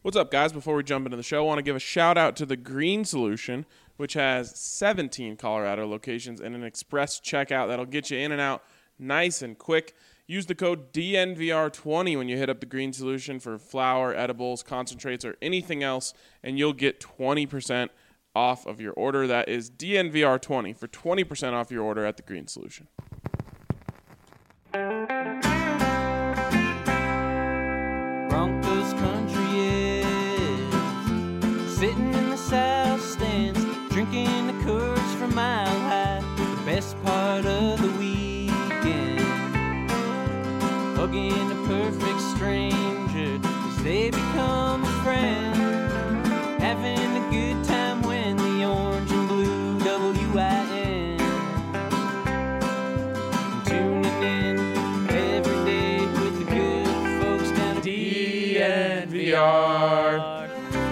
What's up, guys? Before we jump into the show, I want to give a shout out to the Green Solution, which has 17 Colorado locations and an express checkout that'll get you in and out nice and quick. Use the code DNVR20 when you hit up the Green Solution for flour, edibles, concentrates, or anything else, and you'll get 20% off of your order. That is DNVR20 for 20% off your order at the Green Solution. Broncos country is sitting in the south stands, drinking the Coors from Mile High. The best part of the weekend, hugging a perfect stranger as they become a friend, having a good time when the orange and blue WIN, tuning in every day with the good folks down at DNVR.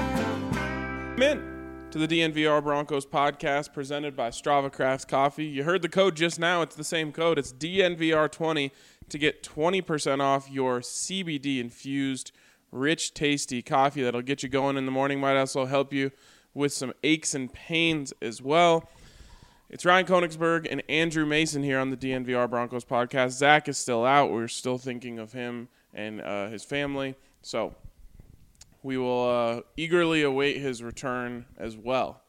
Come in to the DNVR Broncos podcast presented by Strava Crafts Coffee. You heard the code just now. It's the same code. It's DNVR20 to get 20% off your CBD-infused, rich, tasty coffee that'll get you going in the morning. Might also help you with some aches and pains as well. It's Ryan Koenigsberg and Andrew Mason here on the DNVR Broncos podcast. Zach is still out. We're still thinking of him and his family. So we will eagerly await his return as well.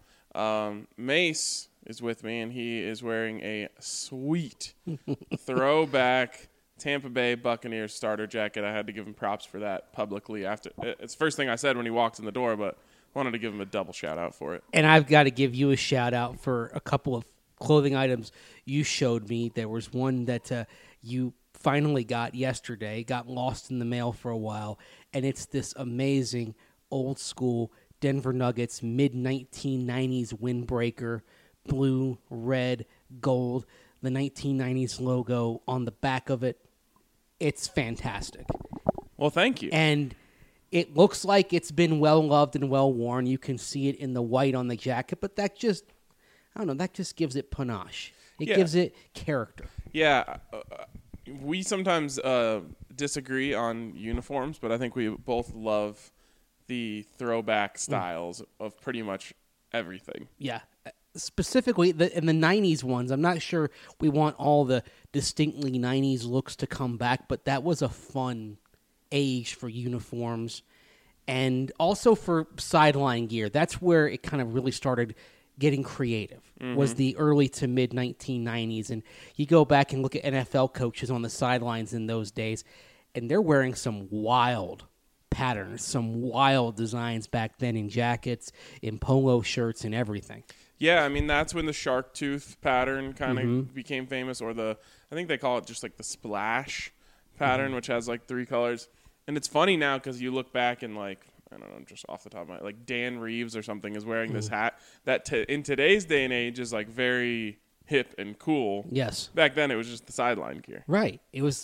Mace is with me, and he is wearing a sweet throwback Tampa Bay Buccaneers starter jacket. I had to give him props for that publicly. After it's the first thing I said when he walked in the door, but wanted to give him a double shout-out for it. And I've got to give you a shout-out for a couple of clothing items you showed me. There was one that you finally got yesterday, got lost in the mail for a while, and it's this amazing old-school Denver Nuggets mid-1990s windbreaker, blue, red, gold, the 1990s logo on the back of it. It's fantastic. Well, thank you. And it looks like it's been well-loved and well-worn. You can see it in the white on the jacket, but that just, I don't know, that just gives it panache. It gives it character. Yeah, we sometimes disagree on uniforms, but I think we both love the throwback styles of pretty much everything. Yeah. Specifically, in the 90s ones, I'm not sure we want all the distinctly 90s looks to come back, but that was a fun age for uniforms and also for sideline gear. That's where it kind of really started getting creative, was the early to mid 1990s. And you go back and look at NFL coaches on the sidelines in those days, and they're wearing some wild patterns, some wild designs back then in jackets, in polo shirts, and everything. Yeah, I mean, that's when the shark tooth pattern kind of became famous, or I think they call it just like the splash pattern, which has like 3 colors. And it's funny now because you look back and like, I don't know, just off the top of my head, like Dan Reeves or something is wearing this hat that in today's day and age is like very hip and cool. Yes. Back then it was just the sideline gear. Right. It was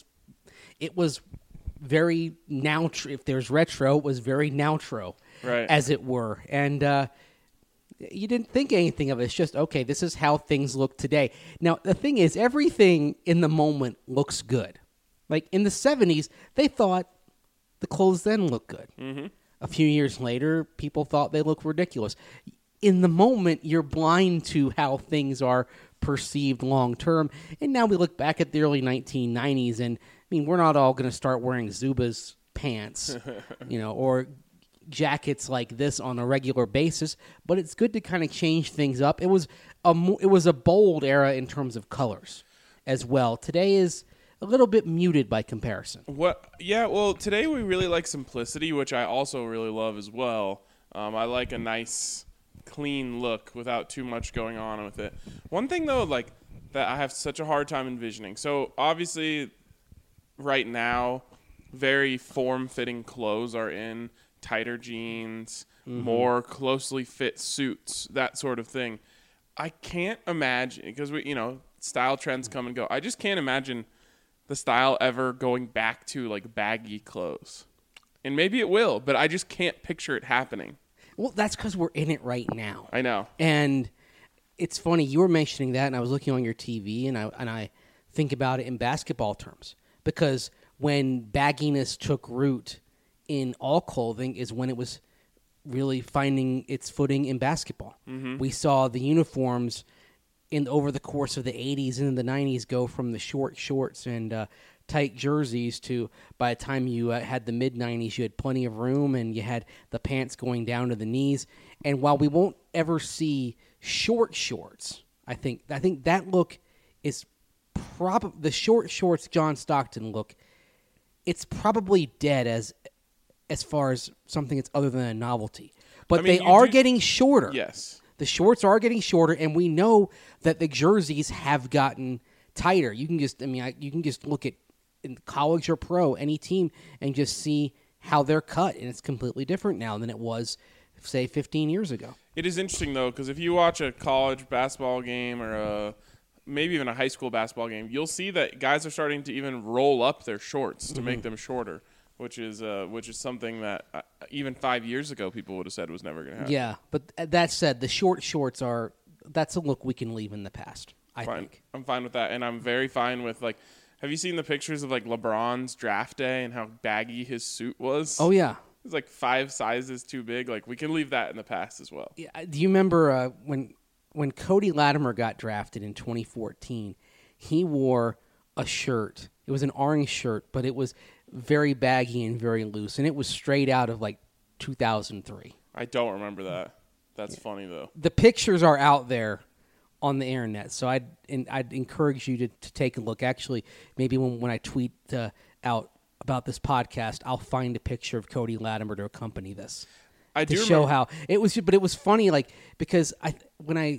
very now. If there's retro, it was very now-tro, Right. as it were. And you didn't think anything of it. It's just, okay, this is how things look today. Now, the thing is, everything in the moment looks good. Like in the 70s, they thought the clothes then looked good. Mm-hmm. A few years later, people thought they looked ridiculous. In the moment, you're blind to how things are perceived long-term. And now we look back at the early 1990s, and I mean, we're not all going to start wearing Zubaz pants, or jackets like this on a regular basis, but it's good to kind of change things up. It was a bold era in terms of colors as well. Today is a little bit muted by comparison. Well, today we really like simplicity, which I also really love as well. I like a nice, clean look without too much going on with it. One thing, though, like that I have such a hard time envisioning. So, obviously, right now, very form-fitting clothes are in. Tighter jeans, more closely fit suits, that sort of thing. I can't imagine, because style trends come and go. I just can't imagine the style ever going back to like baggy clothes. And maybe it will, but I just can't picture it happening. Well, that's because we're in it right now. I know. And it's funny, you were mentioning that, and I was looking on your TV, and I think about it in basketball terms. Because when bagginess took root in all clothing is when it was really finding its footing in basketball. Mm-hmm. We saw the uniforms over the course of the 80s and the 90s go from the short shorts and tight jerseys to, by the time you had the mid-90s, you had plenty of room and you had the pants going down to the knees. And while we won't ever see short shorts, I think that look is probably the short shorts John Stockton look. It's probably dead as far as something that's other than a novelty. But they are getting shorter. Yes. The shorts are getting shorter, and we know that the jerseys have gotten tighter. You can just look at in college or pro, any team, and just see how they're cut, and it's completely different now than it was, say, 15 years ago. It is interesting, though, because if you watch a college basketball game or maybe even a high school basketball game, you'll see that guys are starting to even roll up their shorts to make them shorter, which is something that even 5 years ago people would have said was never going to happen. Yeah, but that said, the short shorts that's a look we can leave in the past, I think. I'm fine with that, and I'm very fine with, like, have you seen the pictures of, like, LeBron's draft day and how baggy his suit was? Oh, yeah. It's like 5 sizes too big. Like, we can leave that in the past as well. Yeah, do you remember when Cody Latimer got drafted in 2014, he wore a shirt. It was an orange shirt, but it was very baggy and very loose, and it was straight out of, like, 2003. I don't remember that. That's funny, though. The pictures are out there on the internet, so I'd encourage you to take a look. Actually, maybe when I tweet out about this podcast, I'll find a picture of Cody Latimer to accompany this. To show how it was, but it was funny, like, because when I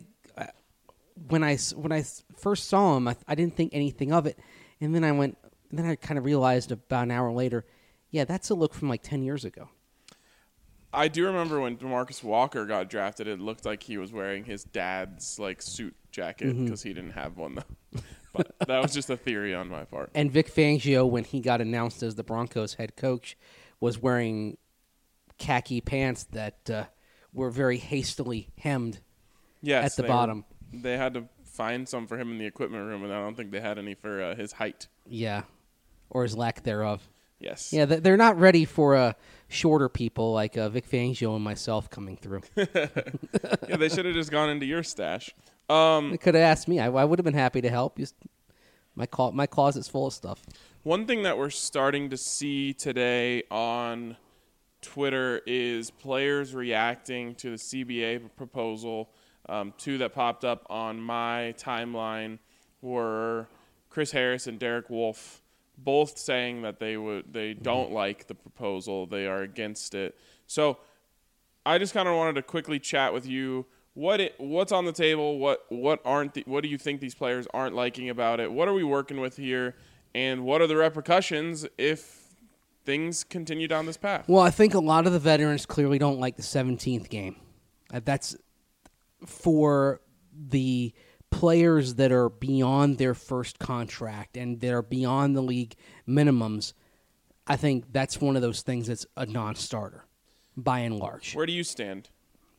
first saw him, I didn't think anything of it, and then I kind of realized about an hour later, yeah, that's a look from like 10 years ago. I do remember when DeMarcus Walker got drafted, it looked like he was wearing his dad's like suit jacket because he didn't have one though. But that was just a theory on my part. And Vic Fangio, when he got announced as the Broncos head coach, was wearing khaki pants that were very hastily hemmed at the bottom. They had to find some for him in the equipment room, and I don't think they had any for his height. Yeah, or his lack thereof. Yes. Yeah, they're not ready for shorter people like Vic Fangio and myself coming through. Yeah, they should have just gone into your stash. They could have asked me. I would have been happy to help. Just my closet's full of stuff. One thing that we're starting to see today on Twitter is players reacting to the CBA proposal. Two that popped up on my timeline were Chris Harris and Derek Wolfe, both saying that they don't like the proposal. They are against it. So I just kind of wanted to quickly chat with you. What's on the table? What do you think these players aren't liking about it? What are we working with here? And what are the repercussions if things continue down this path? Well, I think a lot of the veterans clearly don't like the 17th game. That's for the players that are beyond their first contract and that are beyond the league minimums. I think that's one of those things that's a non-starter, by and large. Where do you stand?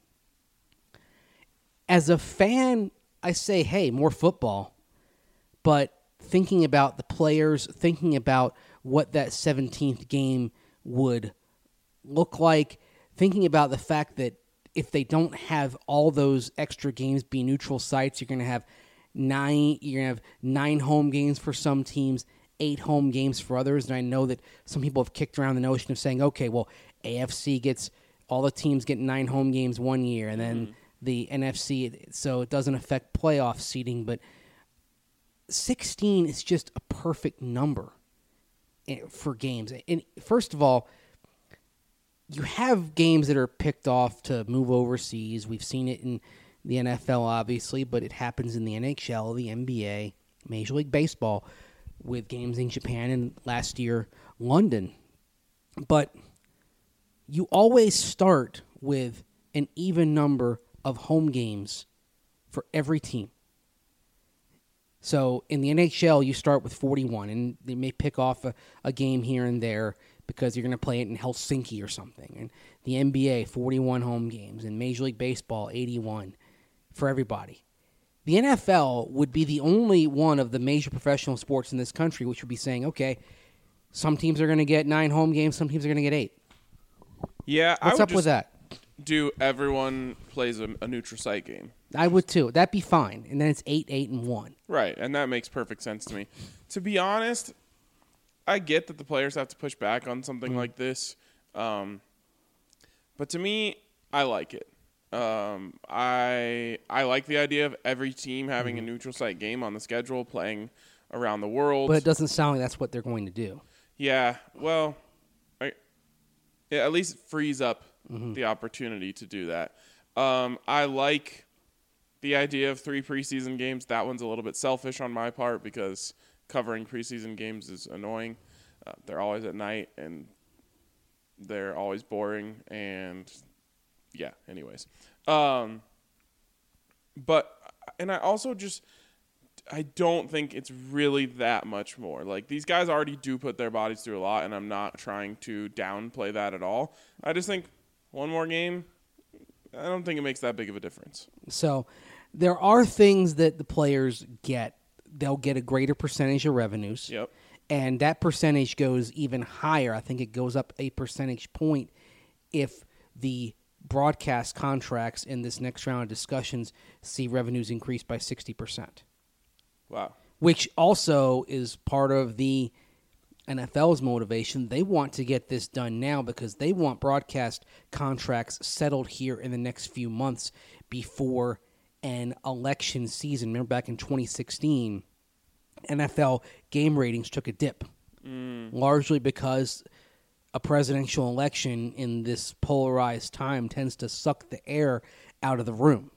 As a fan, I say, hey, more football. But thinking about the players, thinking about what that 17th game would look like, thinking about the fact that if they don't have all those extra games be neutral sites, you're going to have 9 home games for some teams, 8 home games for others. And I know that some people have kicked around the notion of saying, okay, well, AFC gets all the teams get 9 home games one year, and then the NFC, so it doesn't affect playoff seeding. But 16 is just a perfect number for games. And first of all, you have games that are picked off to move overseas. We've seen it in the NFL, obviously, but it happens in the NHL, the NBA, Major League Baseball, with games in Japan and last year, London. But you always start with an even number of home games for every team. So in the NHL, you start with 41, and they may pick off a game here and there because you're going to play it in Helsinki or something. And the NBA, 41 home games, and Major League Baseball, 81 for everybody. The NFL would be the only one of the major professional sports in this country which would be saying, okay, some teams are going to get 9 home games, some teams are going to get 8. Yeah, I What's would up with just that? do everyone plays a neutral site game. I would too. That'd be fine. And then it's 8-8-1. Right, and that makes perfect sense to me. To be honest, I get that the players have to push back on something like this, but to me, I like it. I like the idea of every team having a neutral site game on the schedule, playing around the world. But it doesn't sound like that's what they're going to do. Yeah, well, it at least frees up the opportunity to do that. I like the idea of 3 preseason games. That one's a little bit selfish on my part because covering preseason games is annoying. They're always at night, and they're always boring, and yeah, anyways. And I also I don't think it's really that much more. Like, these guys already do put their bodies through a lot, and I'm not trying to downplay that at all. I just think one more game, I don't think it makes that big of a difference. So there are things that the players get. They'll get a greater percentage of revenues. Yep. And that percentage goes even higher. I think it goes up a percentage point if the broadcast contracts in this next round of discussions see revenues increase by 60%. Wow. Which also is part of the NFL's motivation. They want to get this done now because they want broadcast contracts settled here in the next few months before an election season. Remember back in 2016, NFL game ratings took a dip, largely because a presidential election in this polarized time tends to suck the air out of the room.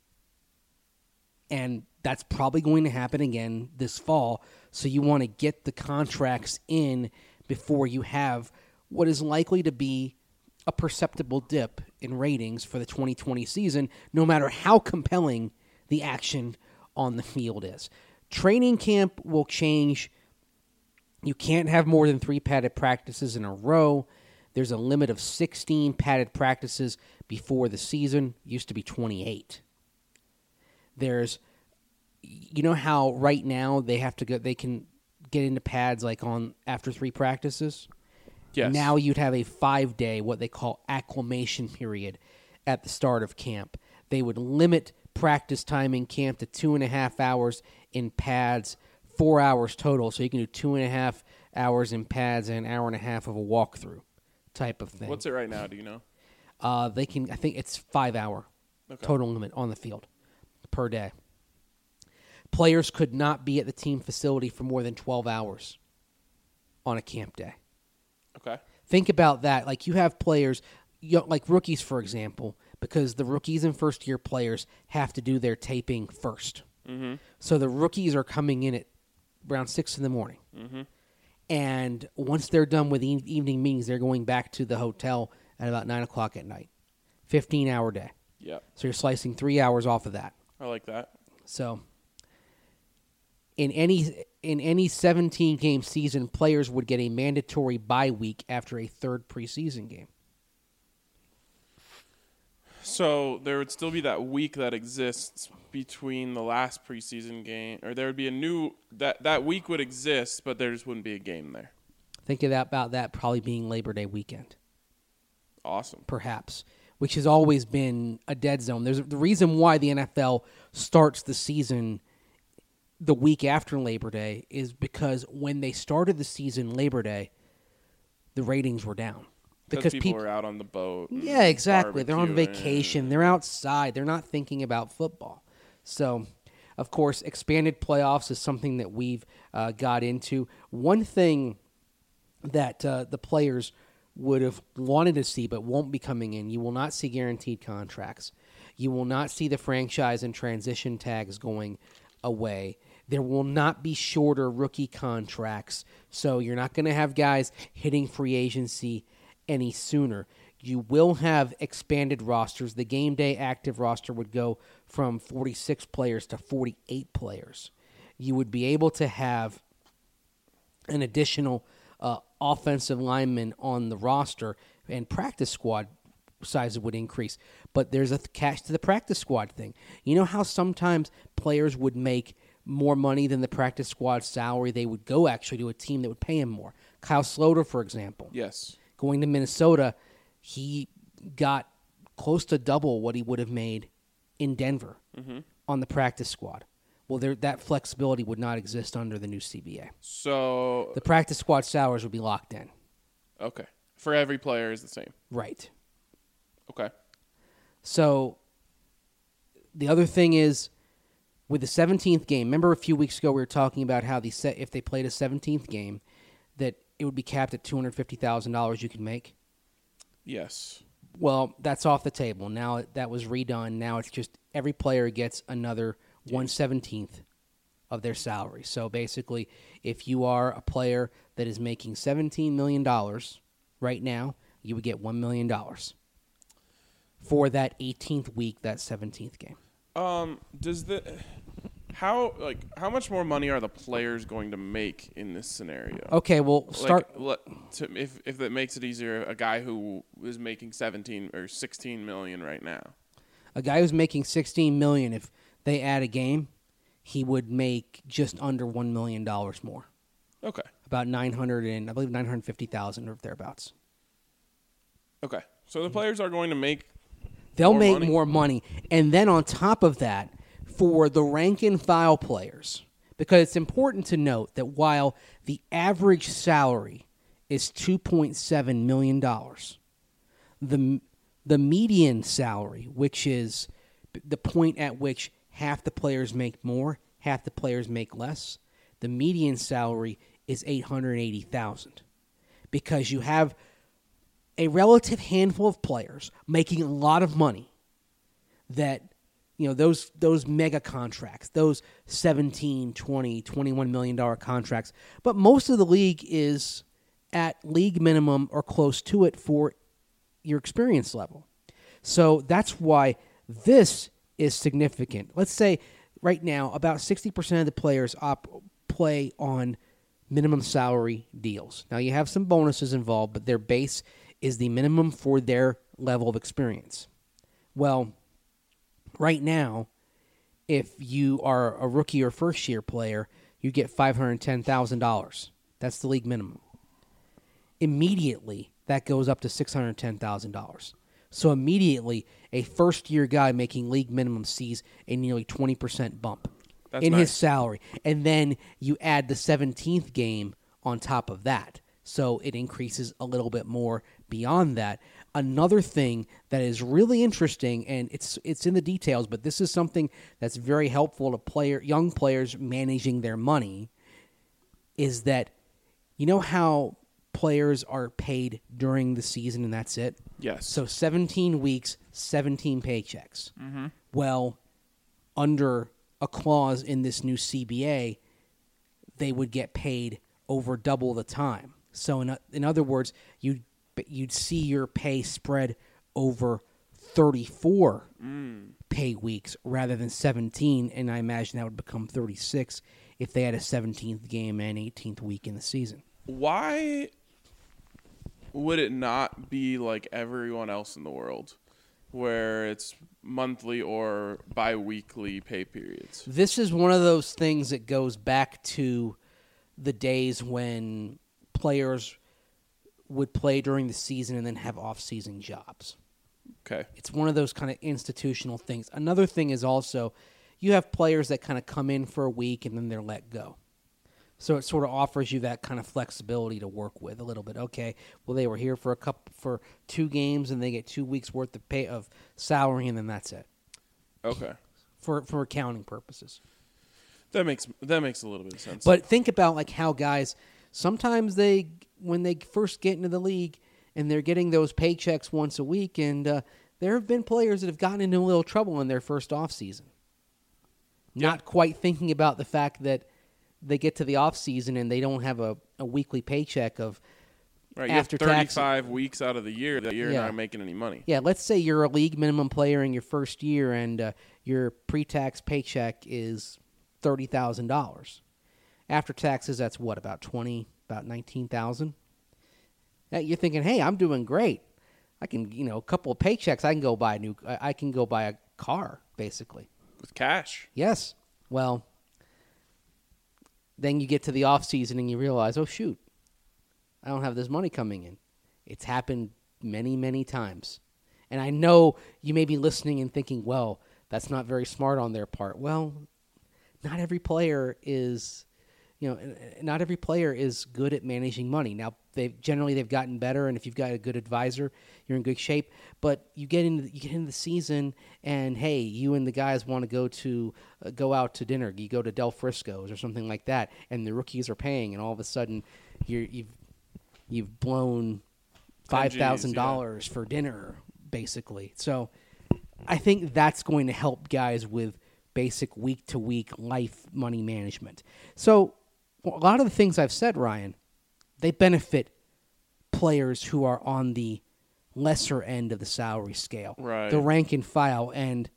And that's probably going to happen again this fall. So you want to get the contracts in before you have what is likely to be a perceptible dip in ratings for the 2020 season, no matter how compelling the action on the field is. Training camp will change. You can't have more than 3 padded practices in a row. There's a limit of 16 padded practices before the season. It used to be 28. There's, you know how right now they can get into pads like on after 3 practices? Yes. Now you'd have a 5-day, what they call acclimation period at the start of camp. They would limit practice time in camp to 2.5 hours in pads, 4 hours total. So you can do 2.5 hours in pads and an hour and a half of a walkthrough type of thing. What's it right now? Do you know? They can. I think it's 5-hour total limit on the field per day. Players could not be at the team facility for more than 12 hours on a camp day. Okay. Think about that. Like, you have players, like rookies, for example, because the rookies and first-year players have to do their taping first. Mm-hmm. So the rookies are coming in at around 6 in the morning. Mm-hmm. And once they're done with evening meetings, they're going back to the hotel at about 9 o'clock at night. 15-hour day. Yeah. So you're slicing 3 hours off of that. I like that. So in any 17-game season, players would get a mandatory bye week after a 3rd preseason game. So there would still be that week that exists between the last preseason game, or there would be a new that week would exist, but there just wouldn't be a game there. Think about that probably being Labor Day weekend. Awesome. Perhaps, which has always been a dead zone. There's the reason why the NFL starts the season the week after Labor Day is because when they started the season Labor Day, the ratings were down. Because people are out on the boat. Yeah, exactly. They're on barbecuing. vacation. They're outside. They're not thinking about football. So, of course, expanded playoffs is something that we've got into. One thing that the players would have wanted to see but won't be coming in, you will not see guaranteed contracts. You will not see the franchise and transition tags going away. There will not be shorter rookie contracts. So you're not going to have guys hitting free agency any sooner. You will have expanded rosters. The game day active roster would go from 46 players to 48 players. You would be able to have an additional offensive lineman on the roster, and practice squad sizes would increase. But there's a catch to the practice squad thing. You know how sometimes players would make more money than the practice squad salary? They would go actually to a team that would pay him more. Kyle Sloter, for example. Yes. Going to Minnesota, he got close to double what he would have made in Denver on the practice squad. Well, that flexibility would not exist under the new CBA. So The practice squad salaries would be locked in. okay, for every player is the same. Right. Okay. So the other thing is with the 17th game, remember a few weeks ago we were talking about how if they played a 17th game, that it would be capped at $250,000 you can make? Yes. Well, that's off the table. Now that was redone. Now it's just every player gets another 1/17th of their salary. So basically, if you are a player that is making $17 million right now, you would get $1 million for that 18th week, that 17th game. How much more money are the players going to make in this scenario? Okay, well, If that makes it easier, a guy who is making 17 or 16 million right now. A guy who's making $16 million, if they add a game, he would make just under $1 million more. Okay. About 950,000 or thereabouts. Okay. So the players are going to make They'll more make money? more money. And then on top of that, for the rank and file players, because it's important to note that while the average salary is $2.7 million, the median salary, which is the point at which half the players make more, half the players make less, the median salary is $880,000, because you have a relative handful of players making a lot of money that, those mega contracts, those 17, 20, $21 million contracts. But most of the league is at league minimum or close to it for your experience level. So that's why this is significant. Let's say right now about 60% of the players play on minimum salary deals. Now you have some bonuses involved, but their base is the minimum for their level of experience. Well, right now, if you are a rookie or first-year player, you get $510,000. That's the league minimum. Immediately, that goes up to $610,000. So immediately, a first-year guy making league minimum sees a nearly 20% bump in his salary. And then you add the 17th game on top of that. So it increases a little bit more beyond that. Another thing that is really interesting, and it's in the details, but this is something that's very helpful to young players managing their money, is that how players are paid during the season and that's it? Yes. So 17 weeks, 17 paychecks. Mm-hmm. Well, under a clause in this new CBA, they would get paid over double the time. So in other words, you'd see your pay spread over 34 pay weeks rather than 17, and I imagine that would become 36 if they had a 17th game and 18th week in the season. Why would it not be like everyone else in the world, where it's monthly or bi-weekly pay periods? This is one of those things that goes back to the days when players would play during the season and then have off-season jobs. Okay. It's one of those kind of institutional things. Another thing is also you have players that kind of come in for a week and then they're let go. So it sort of offers you that kind of flexibility to work with a little bit. Okay, well they were here for 2 games and they get 2 weeks worth of pay of salary and then that's it. Okay. For accounting purposes. That makes a little bit of sense. But think about like how guys sometimes when they first get into the league and they're getting those paychecks once a week, and there have been players that have gotten into a little trouble in their first off season. Yeah. Not quite thinking about the fact that they get to the off season and they don't have a weekly paycheck of right, you after have 35 tax. weeks out of the year that you're not making any money. Yeah, let's say you're a league minimum player in your first year and your pre-tax paycheck is $30,000. After taxes, that's what, about $19,000? You're thinking, hey, I'm doing great. I can, a couple of paychecks, I can go buy a car, basically. With cash. Yes. Well, then you get to the off season and you realize, oh shoot, I don't have this money coming in. It's happened many, many times. And I know you may be listening and thinking, well, that's not very smart on their part. Well, not every player is, not every player is good at managing money. Now, they've gotten better, and if you've got a good advisor, you're in good shape. But you get into the season, and hey, you and the guys want to go out to dinner. You go to Del Frisco's or something like that, and the rookies are paying, and all of a sudden, you've blown $5,000 for dinner, basically. So I think that's going to help guys with basic week-to-week life money management. So a lot of the things I've said, Ryan, they benefit players who are on the lesser end of the salary scale, right? The rank and file. And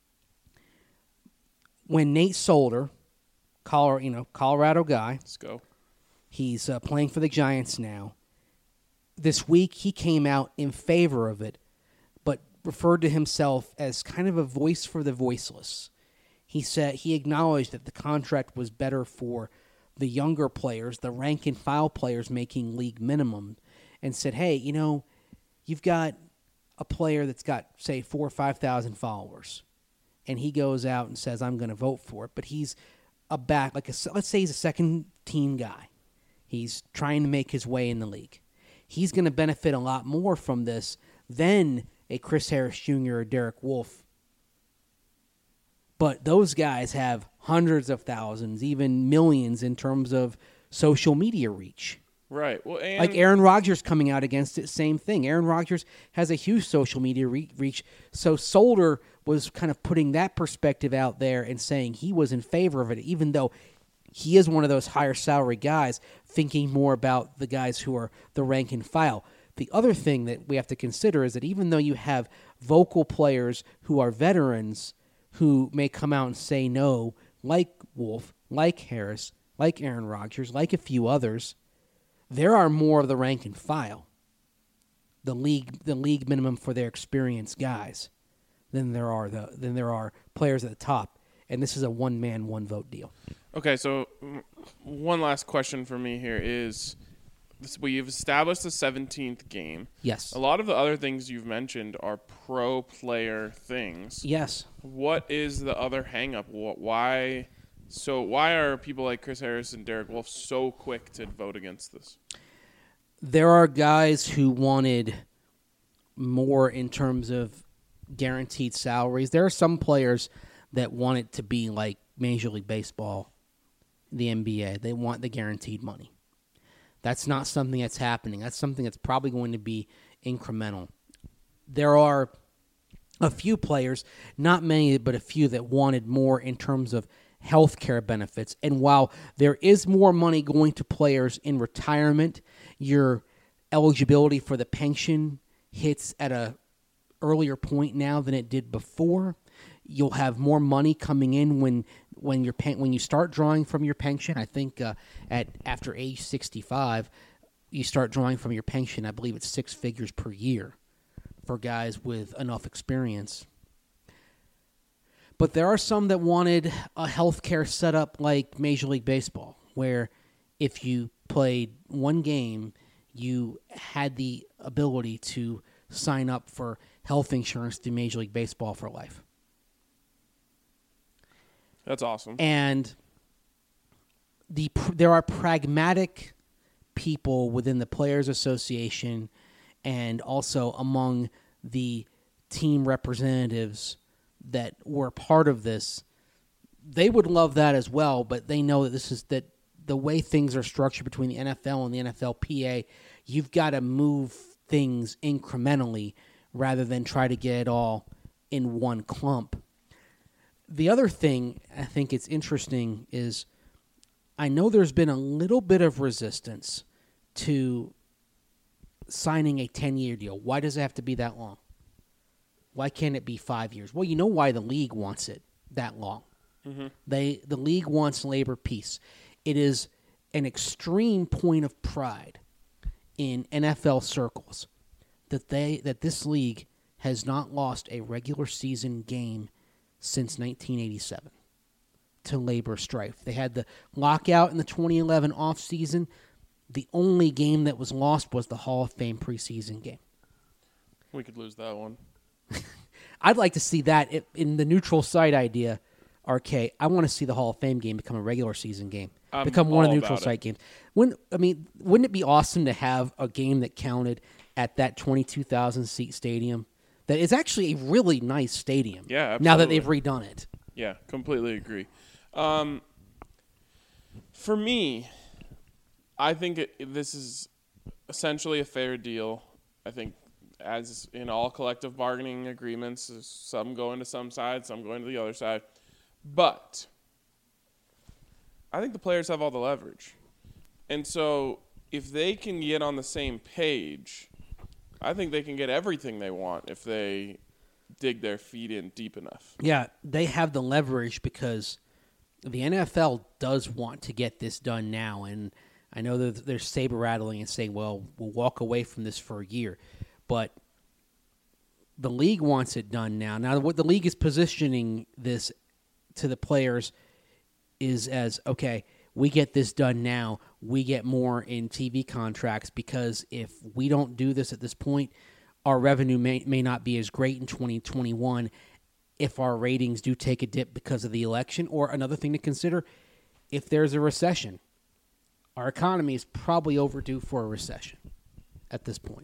when Nate Solder, Colorado guy, let's go. He's playing for the Giants now. This week he came out in favor of it, but referred to himself as kind of a voice for the voiceless. He said he acknowledged that the contract was better for the younger players, the rank and file players making league minimum, and said, hey, you've got a player that's got, say, 4,000 or 5,000 followers, and he goes out and says, I'm going to vote for it, but he's let's say he's a second-team guy. He's trying to make his way in the league. He's going to benefit a lot more from this than a Chris Harris Jr. or Derek Wolfe. But those guys have hundreds of thousands, even millions in terms of social media reach. Right. Well, and like Aaron Rodgers coming out against it, same thing. Aaron Rodgers has a huge social media reach. So Solder was kind of putting that perspective out there and saying he was in favor of it, even though he is one of those higher salary guys, thinking more about the guys who are the rank and file. The other thing that we have to consider is that even though you have vocal players who are veterans who may come out and say no, like Wolf, like Harris, like Aaron Rodgers, like a few others, there are more of the rank and file, the league minimum for their experienced guys, than there are players at the top. And this is a one-man, one-vote deal. Okay, so one last question for me here is, we've established the 17th game. Yes. A lot of the other things you've mentioned are pro-player things. Yes. What is the other hang-up? Why are people like Chris Harris and Derek Wolfe so quick to vote against this? There are guys who wanted more in terms of guaranteed salaries. There are some players that want it to be like Major League Baseball, the NBA. They want the guaranteed money. That's not something that's happening. That's something that's probably going to be incremental. There are a few players, not many, but a few that wanted more in terms of health care benefits. And while there is more money going to players in retirement, your eligibility for the pension hits at a earlier point now than it did before. You'll have more money coming in when you start drawing from your pension. I think after age 65, you start drawing from your pension. I believe it's 6 figures per year for guys with enough experience. But there are some that wanted a healthcare setup like Major League Baseball, where if you played one game, you had the ability to sign up for health insurance through Major League Baseball for life. That's awesome. And there are pragmatic people within the Players Association and also among the team representatives that were part of this. They would love that as well, but they know that the way things are structured between the NFL and the NFLPA, you've got to move things incrementally rather than try to get it all in one clump. The other thing I think it's interesting is I know there's been a little bit of resistance to signing a 10-year deal. Why does it have to be that long? Why can't it be 5 years? Well, you know why the league wants it that long. Mm-hmm. The league wants labor peace. It is an extreme point of pride in NFL circles that this league has not lost a regular season game since 1987 to labor strife. They had the lockout in the 2011 offseason. The only game that was lost was the Hall of Fame preseason game. We could lose that one. I'd like to see that in the neutral site idea, RK. I want to see the Hall of Fame game become a regular season game, become one of the neutral site games. Wouldn't it be awesome to have a game that counted at that 22,000 seat stadium? That is actually a really nice stadium. Yeah, absolutely. Now that they've redone it. Yeah, completely agree. For me, I think this is essentially a fair deal. I think, as in all collective bargaining agreements, some go into some side, some go into the other side. But I think the players have all the leverage. And so if they can get on the same page, I think they can get everything they want if they dig their feet in deep enough. Yeah, they have the leverage because the NFL does want to get this done now. And I know that they're saber-rattling and saying, well, we'll walk away from this for a year. But the league wants it done now. Now, what the league is positioning this to the players is as, okay, we get this done now, we get more in TV contracts, because if we don't do this at this point, our revenue may not be as great in 2021 if our ratings do take a dip because of the election. Or another thing to consider, if there's a recession, our economy is probably overdue for a recession at this point.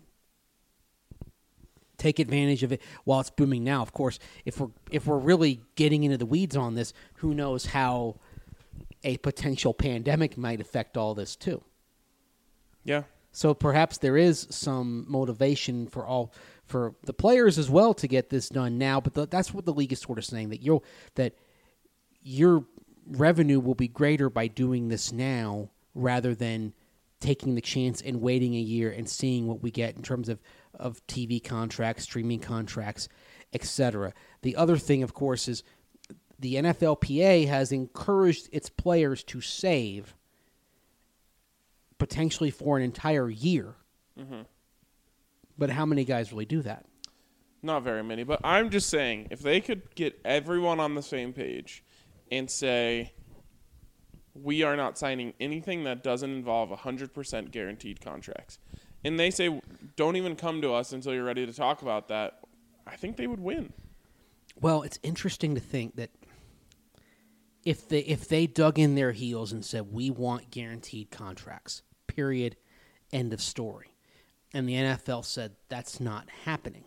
Take advantage of it while it's booming now. Of course, if we're really getting into the weeds on this, who knows how a potential pandemic might affect all this too. Yeah. So perhaps there is some motivation for the players as well to get this done now. But that's what the league is sort of saying, that your revenue will be greater by doing this now rather than taking the chance and waiting a year and seeing what we get in terms of TV contracts, streaming contracts, etc. The other thing, of course, is the NFLPA has encouraged its players to save potentially for an entire year. Mm-hmm. But how many guys really do that? Not very many. But I'm just saying, if they could get everyone on the same page and say, we are not signing anything that doesn't involve 100% guaranteed contracts, and they say, don't even come to us until you're ready to talk about that, I think they would win. Well, it's interesting to think that if they dug in their heels and said, we want guaranteed contracts, period, end of story, and the NFL said that's not happening,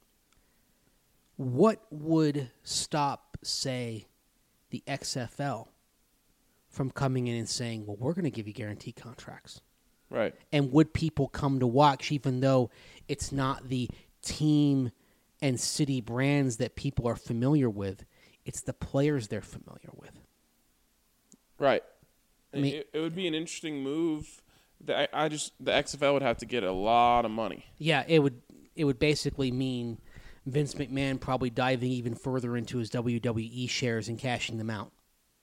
what would stop, say, the XFL from coming in and saying, well, we're going to give you guaranteed contracts? Right. And would people come to watch even though it's not the team and city brands that people are familiar with? It's the players they're familiar with. Right. I mean, it would be an interesting move. The XFL would have to get a lot of money. Yeah, it would basically mean Vince McMahon probably diving even further into his WWE shares and cashing them out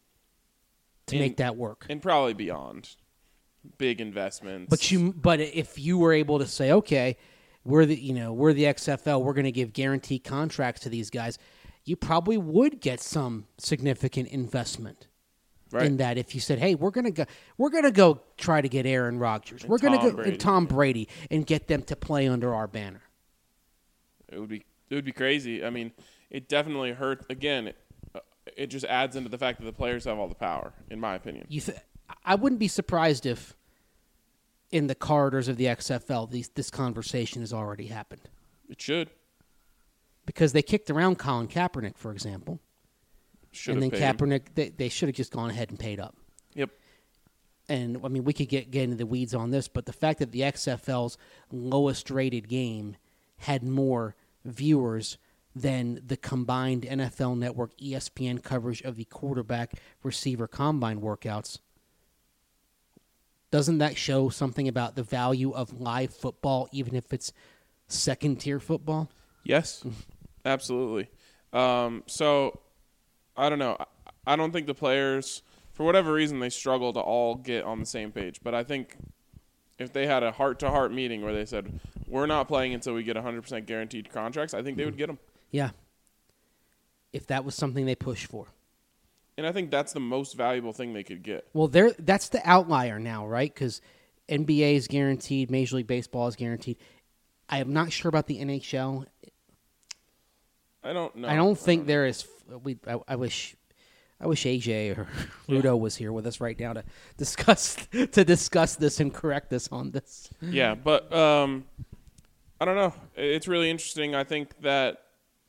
to make that work. And probably beyond. Big investments. But if you were able to say, okay, we're the XFL, we're going to give guaranteed contracts to these guys, you probably would get some significant investment. Right. In that, if you said, "Hey, we're gonna go try to get Aaron Rodgers, we're gonna go and Tom Brady and get them to play under our banner," it would be crazy. I mean, it definitely hurt. Again, it just adds into the fact that the players have all the power, in my opinion. I wouldn't be surprised if, in the corridors of the XFL, this conversation has already happened. It should, because they kicked around Colin Kaepernick, for example. And then Kaepernick, they should have just gone ahead and paid up. Yep. And, I mean, we could get into the weeds on this, but the fact that the XFL's lowest-rated game had more viewers than the combined NFL Network ESPN coverage of the quarterback receiver combine workouts, doesn't that show something about the value of live football, even if it's second-tier football? Yes, absolutely. So, I don't know. I don't think the players, for whatever reason, they struggle to all get on the same page. But I think if they had a heart-to-heart meeting where they said, we're not playing until we get 100% guaranteed contracts, I think they would get them. Yeah. If that was something they pushed for. And I think that's the most valuable thing they could get. Well, that's the outlier now, right? Because NBA is guaranteed, Major League Baseball is guaranteed. I am not sure about the NHL. I don't know. I don't think there is. I wish AJ or Rudo was here with us right now to discuss this and correct us on this. Yeah, but I don't know. It's really interesting. I think that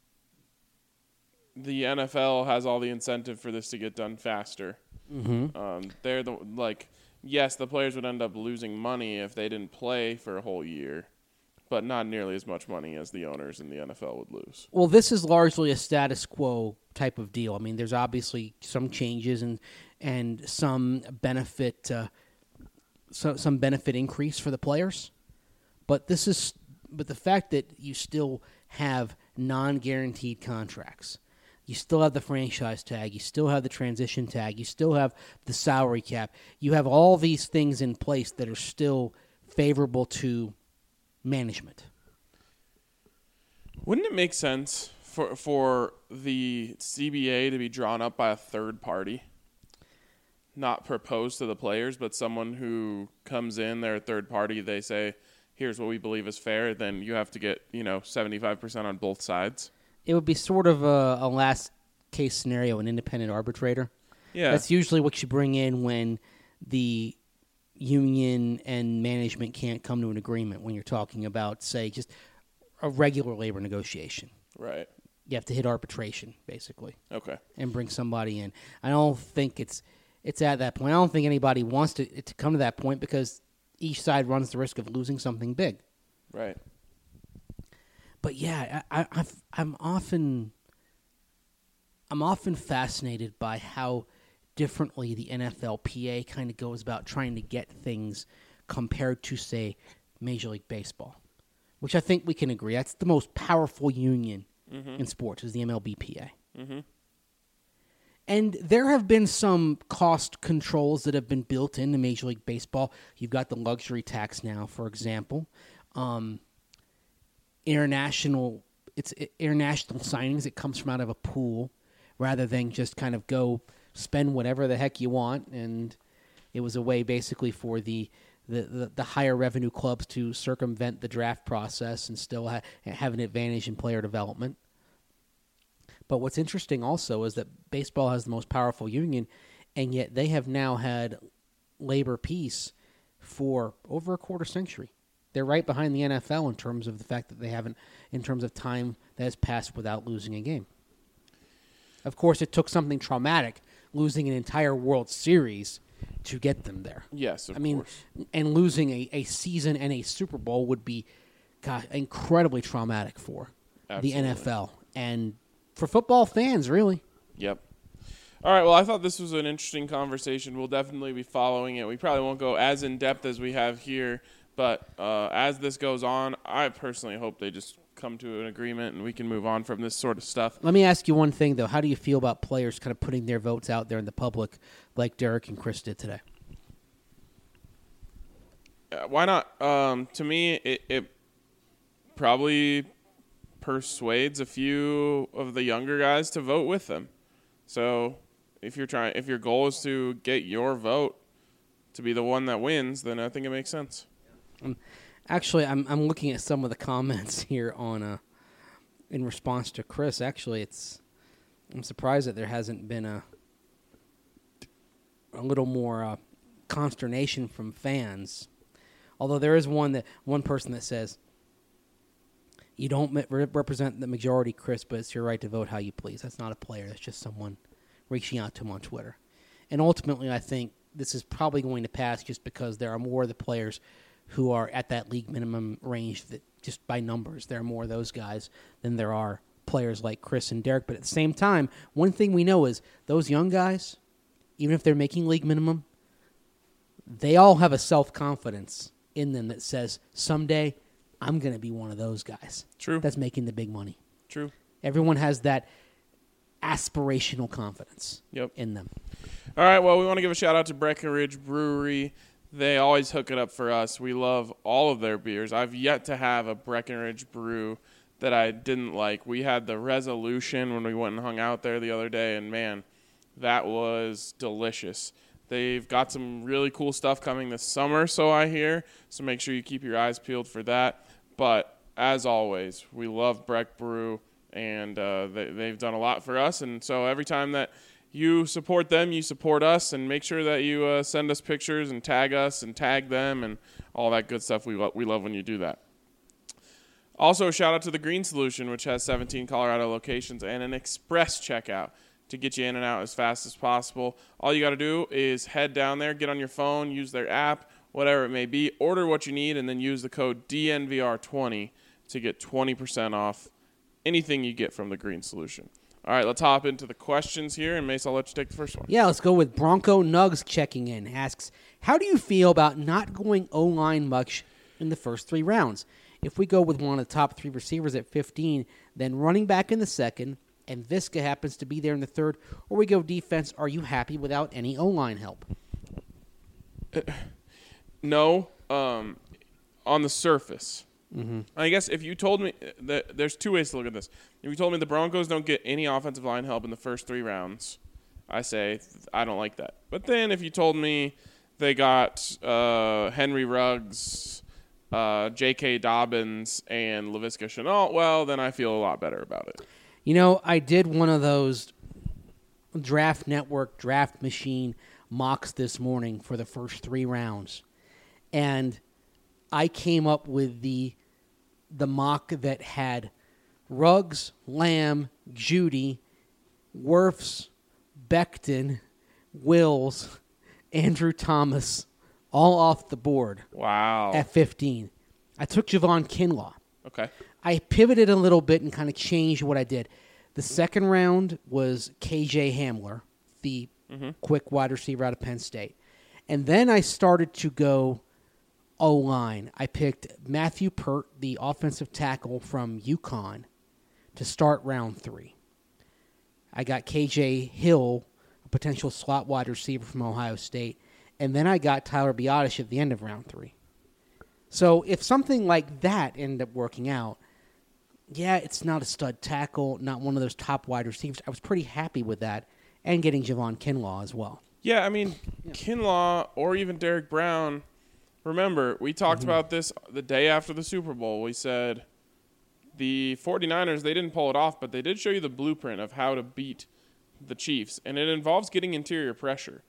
the NFL has all the incentive for this to get done faster. Mm-hmm. They're yes, the players would end up losing money if they didn't play for a whole year, but not nearly as much money as the owners in the NFL would lose. Well, this is largely a status quo type of deal. I mean, there's obviously some changes and some benefit some benefit increase for the players, but the fact that you still have non-guaranteed contracts. You still have the franchise tag. You still have the transition tag. You still have the salary cap. You have all these things in place that are still favorable to management. Wouldn't it make sense for the CBA to be drawn up by a third party? Not proposed to the players, but someone who comes in, they're a third party, they say, here's what we believe is fair, then you have to get 75% on both sides. It would be sort of a last case scenario, an independent arbitrator. Yeah. That's usually what you bring in when the union and management can't come to an agreement when you're talking about, say, just a regular labor negotiation. Right. You have to hit arbitration, basically. Okay. And bring somebody in. I don't think it's at that point. I don't think anybody wants to come to that point because each side runs the risk of losing something big. Right. But yeah, I'm often fascinated by how differently the NFLPA kind of goes about trying to get things compared to, say, Major League Baseball, which I think we can agree that's the most powerful union in sports is the MLBPA. Mm-hmm. And there have been some cost controls that have been built into Major League Baseball. You've got the luxury tax now, for example. International signings. It comes from out of a pool rather than just kind of go spend whatever the heck you want. And it was a way basically for the higher revenue clubs to circumvent the draft process and still have an advantage in player development. But what's interesting also is that baseball has the most powerful union, and yet they have now had labor peace for over a quarter century. They're right behind the NFL in terms of the fact that they haven't, in terms of time that has passed without losing a game. Of course, it took something traumatic, losing an entire World Series, to get them there. Yes, of course. course. And losing a season and a Super Bowl would be, incredibly traumatic for Absolutely. the NFL and for football fans, really. Yep. All right, well, I thought this was an interesting conversation. We'll definitely be following it. We probably won't go as in-depth as we have here, but as this goes on, I personally hope they just come to an agreement and we can move on from this sort of stuff. Let me ask you one thing, though. How do you feel about players kind of putting their votes out there in the public like Derek and Chris did today? Why not? To me, it probably persuades a few of the younger guys to vote with them. So if your goal is to get your vote to be the one that wins, then I think it makes sense. Actually, I'm looking at some of the comments here on in response to Chris. Actually, I'm surprised that there hasn't been a little more consternation from fans. Although there is one person that says, "You don't represent the majority, Chris, but it's your right to vote how you please." That's not a player. That's just someone reaching out to him on Twitter. And ultimately, I think this is probably going to pass just because there are more of the players who are at that league minimum range that just by numbers, there are more of those guys than there are players like Chris and Derek. But at the same time, one thing we know is those young guys, even if they're making league minimum, they all have a self-confidence in them that says, someday I'm going to be one of those guys. True. That's making the big money. True. Everyone has that aspirational confidence Yep. in them. All right, well, we want to give a shout-out to Breckenridge Brewery. They always hook it up for us. We love all of their beers. I've yet to have a Breckenridge brew that I didn't like. We had the Resolution when we went and hung out there the other day, and, man, that was delicious. They've got some really cool stuff coming this summer, so I hear, so make sure you keep your eyes peeled for that. But as always, we love Breck Brew, and they've done a lot for us. And so every time that you support them, you support us, and make sure that you send us pictures and tag us and tag them and all that good stuff. We love when you do that. Also, shout out to the Green Solution, which has 17 Colorado locations and an express checkout to get you in and out as fast as possible. All you got to do is head down there, get on your phone, use their app, whatever it may be, order what you need, and then use the code DNVR20 to get 20% off anything you get from the Green Solution. All right, let's hop into the questions here, and Mace, I'll let you take the first one. Yeah, let's go with Bronco Nugs checking in. Asks, how do you feel about not going O-line much in the first 3 rounds? If we go with one of the top 3 receivers at 15, then running back in the second, and Visca happens to be there in the third, or we go defense, are you happy without any O-line help? No, on the surface. Mm-hmm. I guess if you told me that there's 2 ways to look at this. If you told me the Broncos don't get any offensive line help in the first 3 rounds, I say I don't like that. But then if you told me they got Henry Ruggs, J.K. Dobbins, and Laviska Shenault, well, then I feel a lot better about it. You know, I did one of those Draft Network, Draft Machine mocks this morning for the first 3 rounds. And I came up with the mock that had Ruggs, Lamb, Judy, Wirfs, Becton, Wills, Andrew Thomas, all off the board. Wow. At 15. I took Javon Kinlaw. Okay. I pivoted a little bit and kind of changed what I did. The second round was KJ Hamler, the quick wide receiver out of Penn State. And then I started to go O-line. I picked Matthew Pert, the offensive tackle from UConn, to start round 3. I got KJ Hill, a potential slot wide receiver from Ohio State. And then I got Tyler Biadasz at the end of round 3. So if something like that ended up working out, yeah, it's not a stud tackle, not one of those top wide receivers. I was pretty happy with that, and getting Javon Kinlaw as well. Yeah, I mean, Kinlaw or even Derek Brown, remember, we talked about this the day after the Super Bowl. We said the 49ers, they didn't pull it off, but they did show you the blueprint of how to beat the Chiefs, and it involves getting interior pressure.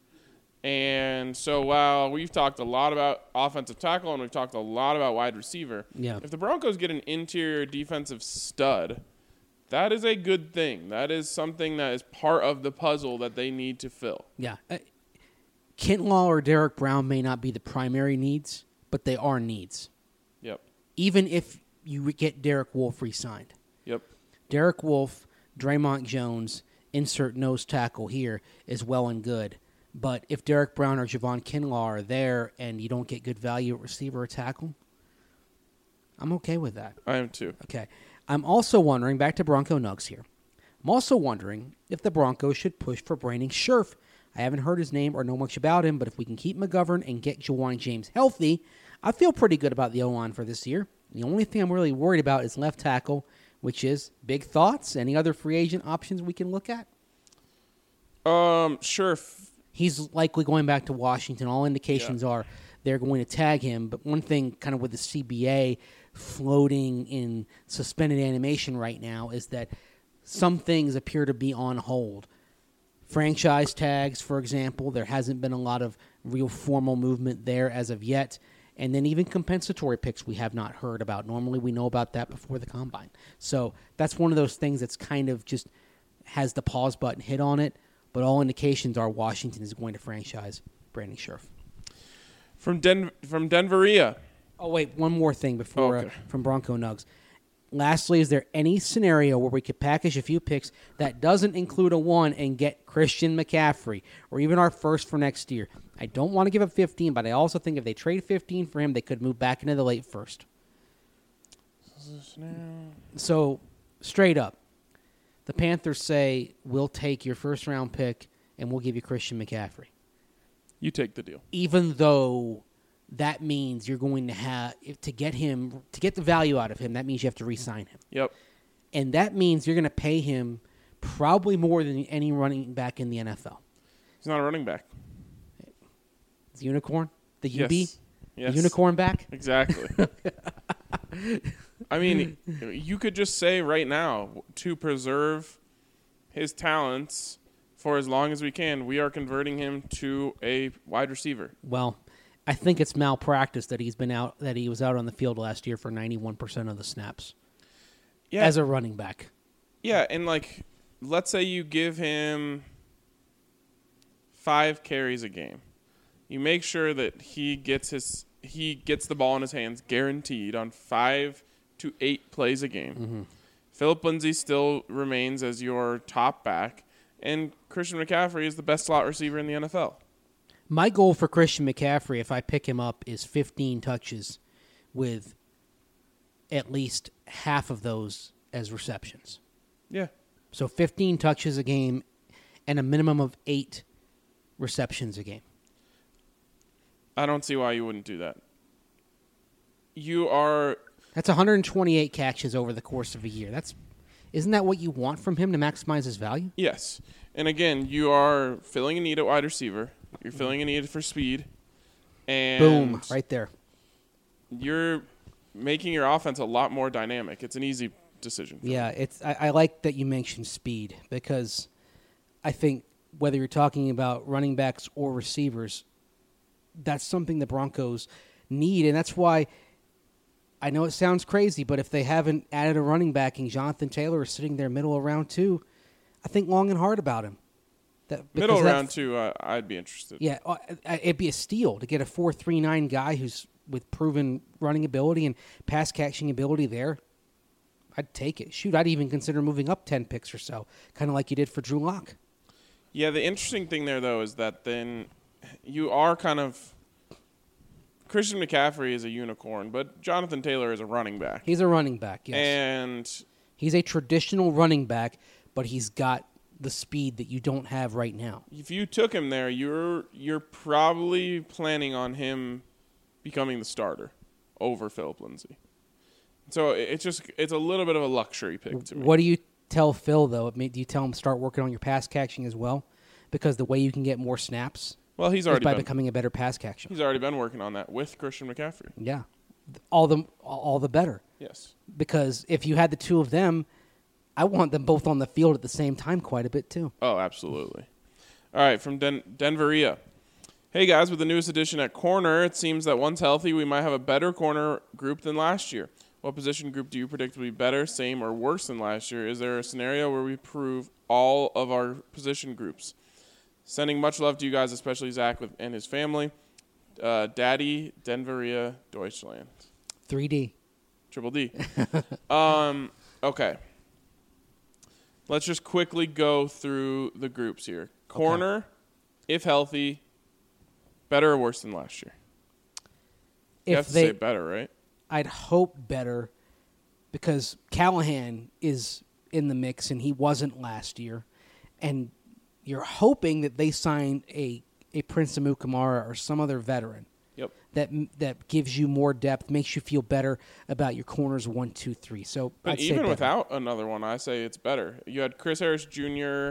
And so while we've talked a lot about offensive tackle and we've talked a lot about wide receiver, if the Broncos get an interior defensive stud, that is a good thing. That is something that is part of the puzzle that they need to fill. Yeah. Kinlaw or Derek Brown may not be the primary needs, but they are needs. Yep. Even if you get Derek Wolfe re-signed. Yep. Derek Wolfe, Draymond Jones, insert nose tackle here is well and good. But if Derek Brown or Javon Kinlaw are there and you don't get good value at receiver or tackle, I'm okay with that. I am too. Okay. I'm also wondering, back to Bronco Nugs here, I'm also wondering if the Broncos should push for Brandon Scherff. I haven't heard his name or know much about him, but if we can keep McGovern and get Ja'Wuan James healthy, I feel pretty good about the O-line for this year. The only thing I'm really worried about is left tackle, which is big thoughts. Any other free agent options we can look at? Scherff. He's likely going back to Washington. All indications are they're going to tag him. But one thing kind of with the CBA floating in suspended animation right now is that some things appear to be on hold. Franchise tags, for example, there hasn't been a lot of real formal movement there as of yet. And then even compensatory picks we have not heard about. Normally we know about that before the Combine. So that's one of those things that's kind of just has the pause button hit on it. But all indications are Washington is going to franchise Brandon Scherff. From Denveria. Oh, wait, one more thing before from Bronco Nugs. Lastly, is there any scenario where we could package a few picks that doesn't include a 1 and get Christian McCaffrey or even our first for next year? I don't want to give up 15, but I also think if they trade 15 for him, they could move back into the late first. So, straight up, the Panthers say, we'll take your first-round pick and we'll give you Christian McCaffrey. You take the deal. Even though that means you're going to have to get the value out of him, that means you have to re-sign him. Yep. And that means you're going to pay him probably more than any running back in the NFL. He's not a running back. The unicorn? The UB? Yes. The unicorn back? Exactly. I mean, you could just say right now, to preserve his talents for as long as we can, we are converting him to a wide receiver. Well, I think it's malpractice that he was out on the field last year for 91% of the snaps. Yeah. As a running back. Yeah, and like, let's say you give him 5 carries a game. You make sure that he gets the ball in his hands guaranteed on 5 to 8 plays a game. Mm-hmm. Philip Lindsay still remains as your top back, and Christian McCaffrey is the best slot receiver in the NFL. My goal for Christian McCaffrey, if I pick him up, is 15 touches with at least half of those as receptions. Yeah. So 15 touches a game and a minimum of 8 receptions a game. I don't see why you wouldn't do that. That's 128 catches over the course of a year. Isn't that what you want from him to maximize his value? Yes. And again, you are filling a need at wide receiver. You're filling a need for speed. And Boom, right there. You're making your offense a lot more dynamic. It's an easy decision. Yeah, I like that you mentioned speed because I think whether you're talking about running backs or receivers, that's something the Broncos need, and that's why I know it sounds crazy, but if they haven't added a running back and Jonathan Taylor is sitting there middle of round 2, I think long and hard about him. Middle of round 2, I'd be interested. Yeah, it'd be a steal to get a 4.39 guy who's with proven running ability and pass catching ability there. I'd take it. Shoot, I'd even consider moving up 10 picks or so, kind of like you did for Drew Lock. Yeah, the interesting thing there, though, is that then you are kind of – Christian McCaffrey is a unicorn, but Jonathan Taylor is a running back. He's a running back, yes. And he's a traditional running back, but he's got the speed that you don't have right now. If you took him there, you're probably planning on him becoming the starter over Philip Lindsay. So it's a little bit of a luxury pick to me. What do you tell Phil, though? Do you tell him start working on your pass catching as well? Because the way you can get more snaps well, he's is already by becoming a better pass catcher. He's already been working on that with Christian McCaffrey. Yeah. All the better. Yes. Because if you had the two of them, I want them both on the field at the same time quite a bit, too. Oh, absolutely. All right, from Denveria. Hey, guys, with the newest addition at corner, it seems that once healthy, we might have a better corner group than last year. What position group do you predict will be better, same, or worse than last year? Is there a scenario where we prove all of our position groups? Sending much love to you guys, especially Zach and his family. Daddy, Denveria, Deutschland. 3D. Triple D. Okay. Let's just quickly go through the groups here. Corner, if healthy, better or worse than last year? You have to say better, right? I'd hope better because Callahan is in the mix and he wasn't last year. And you're hoping that they sign a Prince Amukamara or some other veteran. Yep. That gives you more depth, makes you feel better about your corners 1, 2, 3. So, but even without another one, I say it's better. You had Chris Harris Jr.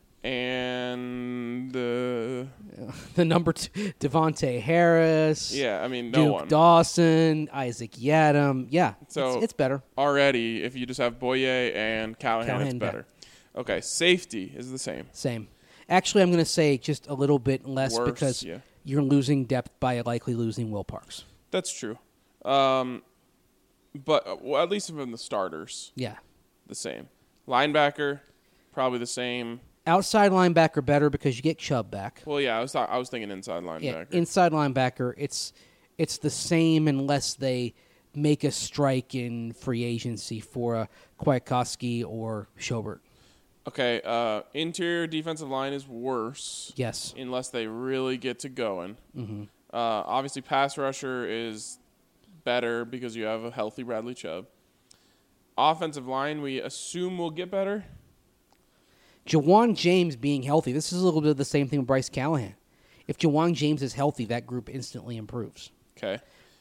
and the number 2, Devontae Harris. Yeah, I mean, Duke Dawson, Isaac Yadam. Yeah, so it's better already. If you just have Boye and Callahan, it's better. Okay, safety is the same. Same. Actually, I'm going to say just a little bit less because you're losing depth by likely losing Will Parks. That's true. But at least from the starters. Yeah. The same. Linebacker, probably the same. Outside linebacker better because you get Chubb back. Well, yeah, I was thinking inside linebacker. Yeah, inside linebacker, it's the same unless they make a strike in free agency for a Kwiatkowski or Schobert. Okay, interior defensive line is worse. Yes. Unless they really get to going. Mm-hmm. Obviously, pass rusher is better because you have a healthy Bradley Chubb. Offensive line, we assume will get better. Jawan James being healthy. This is a little bit of the same thing with Bryce Callahan. If Jawan James is healthy, that group instantly improves. Okay.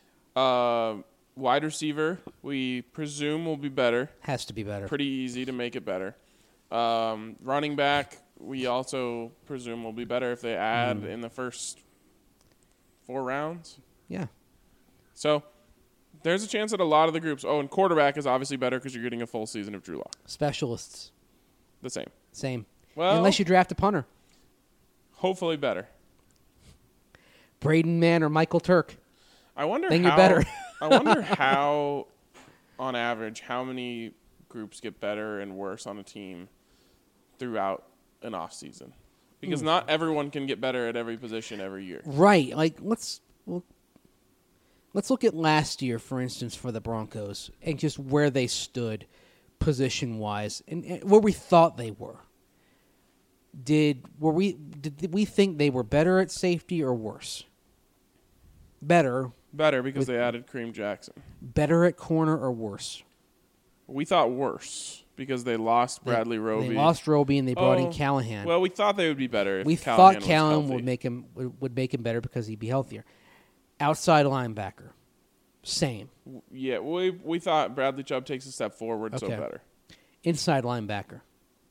Wide receiver, we presume will be better. Has to be better. Pretty easy to make it better. Running back, we also presume will be better if they add in the first 4 rounds. Yeah. So There's a chance that a lot of the groups. Oh, and quarterback is obviously better because you're getting a full season of Drew Lock. Specialists, The same. same. Well, Unless you draft a punter. hopefully better. Braden Mann or Michael Turk. I wonder Then how. you're better. I wonder how, on average, how many groups get better and worse on a team throughout an off season, because not everyone can get better at every position every year. Right. Like let's look at last year, for instance, for the Broncos and just where they stood position wise and where we thought they were. Did we think they were better at safety or worse? Better Because they added Kareem Jackson. Better at corner or worse? We thought worse because they lost Bradley Roby. They lost Roby and they brought in Oh, Callahan. Well, we thought they would be better if we Callahan thought was Callahan healthy. would make him better because he'd be healthier. Outside linebacker, same. Yeah, we thought Bradley Chubb takes a step forward, so Okay. better. Inside linebacker.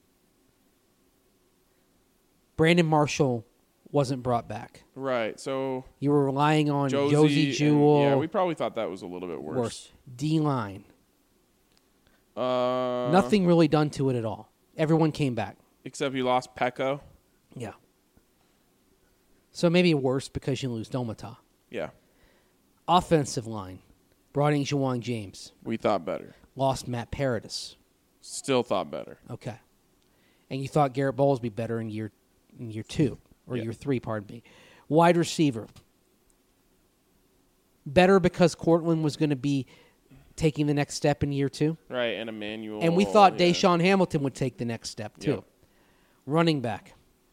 Brandon Marshall wasn't brought back. Right, so You were relying on Josie Josie and- Jewell. yeah, we probably thought that was a little bit worse. D-line. Uh, Nothing really done to it at all. Everyone came back. except you lost Pecco. Yeah. So maybe worse because you lose Domata. Yeah, Offensive line. Brought in Juwan James. we thought better. Lost Matt Paradis. Still thought better. Okay. And you thought Garrett Bowles would be better in year 2 or Yeah. year 3, pardon me. Wide receiver. Better because Cortland was going to be taking the next step in year 2. Right, and Emmanuel. And we thought yeah. Deshaun Hamilton would take the next step too. Yep. Running back.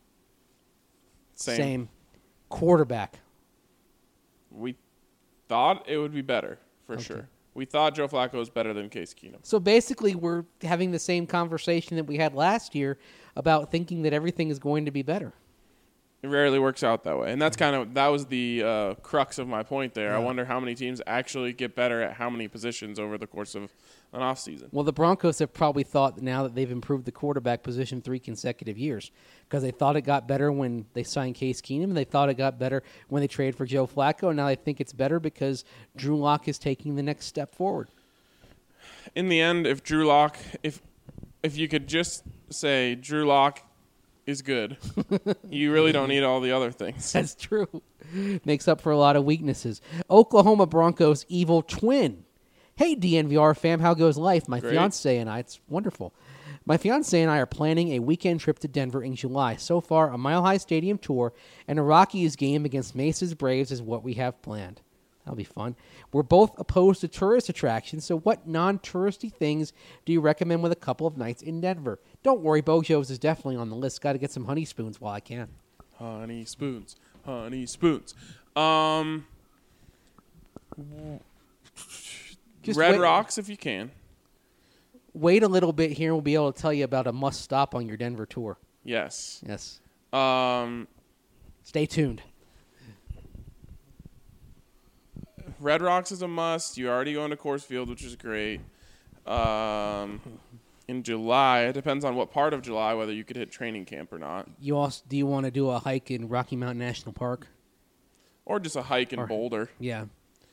Same. Quarterback. We thought it would be better, for Okay. sure. We thought Joe Flacco was better than Case Keenum. So basically we're having the same conversation that we had last year about thinking that everything is going to be better. It rarely works out that way. And that's that was the crux of my point there. I Yeah. wonder how many teams actually get better at how many positions over the course of an offseason. Well, the Broncos have probably thought that now that they've improved the quarterback position 3 consecutive years because they thought it got better when they signed Case Keenum and they thought it got better when they traded for Joe Flacco. And now they think it's better because Drew Lock is taking the next step forward. In the end, if Drew Lock, if you could just say Drew Lock is good, you really don't need all the other things. That's true. Makes up for a lot of weaknesses. Oklahoma Broncos evil twin. Hey, DNVR fam, how goes life? My Great. fiance and I, it's wonderful. My fiance and I are planning a weekend trip to Denver in July. So far, a Mile High Stadium tour and a Rockies game against Mesa's Braves is what we have planned. That'll be fun. We're both opposed to tourist attractions, so what non-touristy things do you recommend with a couple of nights in Denver? Don't worry, Bojo's is definitely on the list. Got to get some honey spoons while I can. Honey spoons. Honey spoons. Just Red wait- Rocks if you can. Wait a little bit here and we'll be able to tell you about a must stop on your Denver tour. Yes. Yes. Um, Stay tuned. Red Rocks is a must. You're already going to Coors Field, which is great. In July, it depends on what part of July, whether you could hit training camp or not. Do you want to do a hike in Rocky Mountain National Park? Or just a hike in Or- Boulder. Yeah.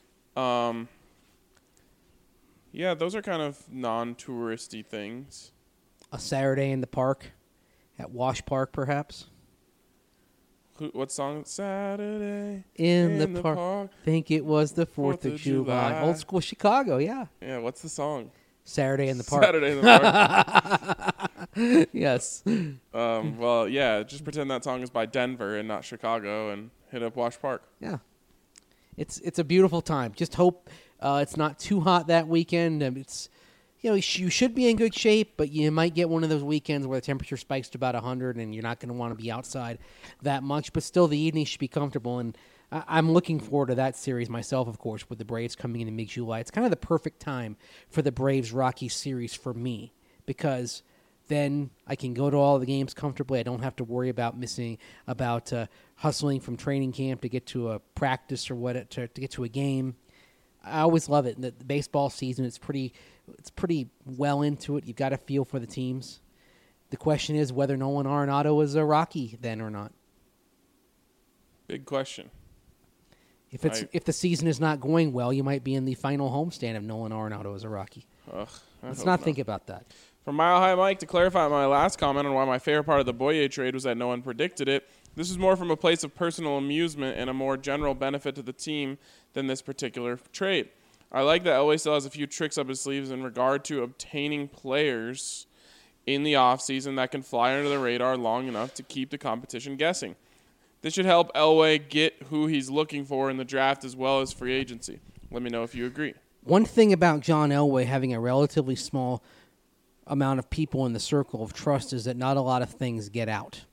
Yeah, those are kind of non-touristy things. A Saturday in the park at Wash Park, perhaps? What song? Saturday In the park. Think it was the 4th of July. Old school Chicago, yeah. Yeah, what's the song? Saturday in the park. Saturday in the park. Yes. Well, yeah, just pretend that song is by Denver and not Chicago and hit up Wash Park. Yeah. It's a beautiful time. Just hope it's not too hot that weekend. It's you should be in good shape, but you might get one of those weekends where the temperature spikes to about 100 and you're not going to want to be outside that much. But still, the evening should be comfortable. And I'm looking forward to that series myself, of course, with the Braves coming in mid-July. It's kind of the perfect time for the Braves-Rockies series for me because then I can go to all the games comfortably. I don't have to worry about hustling from training camp to get to a practice or to get to a game. I always love it. The baseball season, it's pretty well into it. You've got a feel for the teams. The question is whether Nolan Arenado is a Rocky then or not. Big question. If the season is not going well, you might be in the final homestand if Nolan Arenado is a Rocky. Let's not think about that. From Mile High Mike, to clarify my last comment on why my favorite part of the Boye trade was that no one predicted it, this is more from a place of personal amusement and a more general benefit to the team than this particular trade. I like that Elway still has a few tricks up his sleeves in regard to obtaining players in the offseason that can fly under the radar long enough to keep the competition guessing. This should help Elway get who he's looking for in the draft as well as free agency. Let me know if you agree. One thing about John Elway having a relatively small amount of people in the circle of trust is that not a lot of things get out.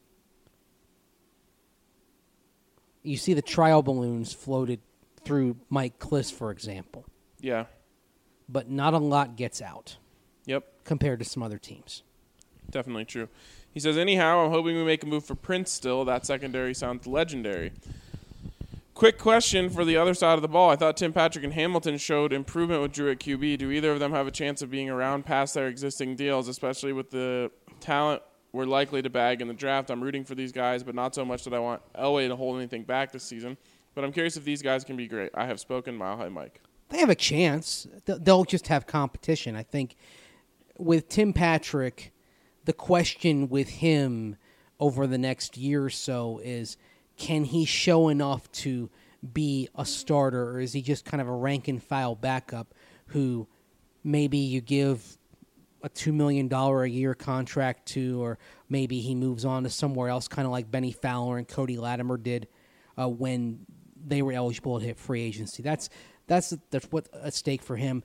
You see the trial balloons floated through Mike Kliss, for example. Yeah. But not a lot gets out. Yep. Compared to some other teams. Definitely true. He says, anyhow, I'm hoping we make a move for Prince still. That secondary sounds legendary. Quick question for the other side of the ball. I thought Tim Patrick and Hamilton showed improvement with Drew at QB. Do either of them have a chance of being around past their existing deals, especially with the talent we're likely to bag in the draft? I'm rooting for these guys, but not so much that I want Elway to hold anything back this season. But I'm curious if these guys can be great. I have spoken. Mile High Mike. They have a chance. They'll just have competition. I think with Tim Patrick, the question with him over the next year or so is, can he show enough to be a starter, or is he just kind of a rank-and-file backup who maybe you give a $2 million a year contract to, or maybe he moves on to somewhere else, kind of like Benny Fowler and Cody Latimer did when they were eligible to hit free agency. That's what's at stake for him.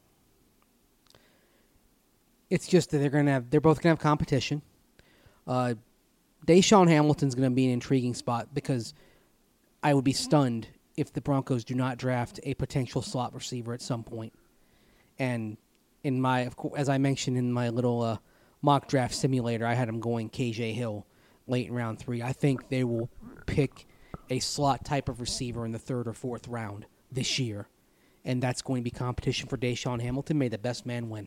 It's just that they're both gonna have competition. Deshaun Hamilton's going to be an intriguing spot because I would be stunned if the Broncos do not draft a potential slot receiver at some point. And as I mentioned in my little mock draft simulator, I had him going KJ Hill late in round 3. I think they will pick a slot type of receiver in the 3rd or 4th round this year, and that's going to be competition for Deshaun Hamilton. May the best man win.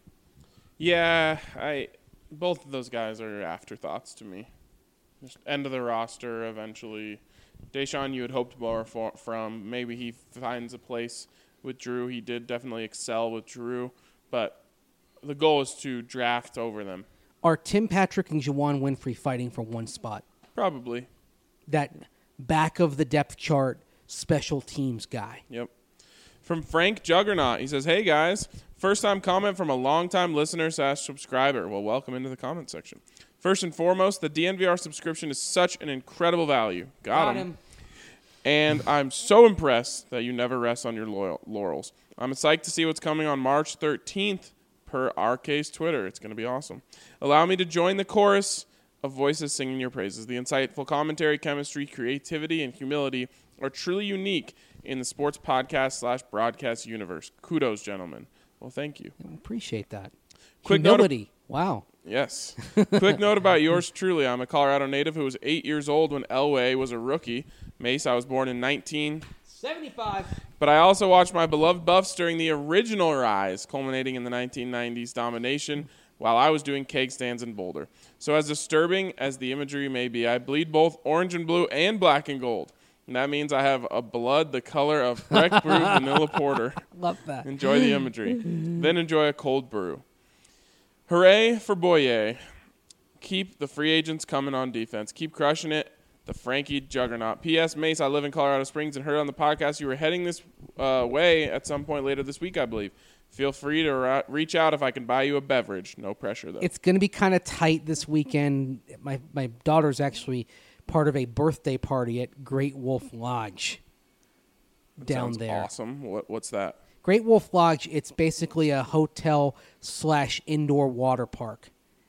Yeah, both of those guys are afterthoughts to me. Just end of the roster eventually. Deshaun, you had hoped more from. Maybe he finds a place with Drew. He did definitely excel with Drew, but the goal is to draft over them. Are Tim Patrick and Juwan Winfrey fighting for one spot? Probably. That back of the depth chart special teams guy. Yep. From Frank Juggernaut, he says, hey guys, first time comment from a long-time listener / subscriber. Well, welcome into the comment section. First and foremost, the DNVR subscription is such an incredible value. Got him. And I'm so impressed that you never rest on your laurels. I'm psyched to see what's coming on March 13th per RK's Twitter. It's going to be awesome. Allow me to join the chorus of voices singing your praises. The insightful commentary, chemistry, creativity, and humility are truly unique in the sports podcast / broadcast universe. Kudos, gentlemen. Well, thank you. I appreciate that. Quick humility. Wow. Yes. Quick note about yours truly. I'm a Colorado native who was 8 years old when Elway was a rookie. Mace, I was born in 1975. But I also watched my beloved Buffs during the original rise, culminating in the 1990s domination while I was doing keg stands in Boulder. So as disturbing as the imagery may be, I bleed both orange and blue and black and gold. And that means I have a blood the color of Breck Brew Vanilla Porter. Love that. Enjoy the imagery. Then enjoy a cold brew. Hooray for Boye. Keep the free agents coming on defense. Keep crushing it. The Frankie Juggernaut. P.S. Mace, I live in Colorado Springs and heard on the podcast you were heading this way at some point later this week, I believe. Feel free to reach out if I can buy you a beverage. No pressure, though. It's going to be kind of tight this weekend. My daughter's actually part of a birthday party at Great Wolf Lodge down there. Awesome. What's that? Great Wolf Lodge, it's basically a hotel / indoor water park.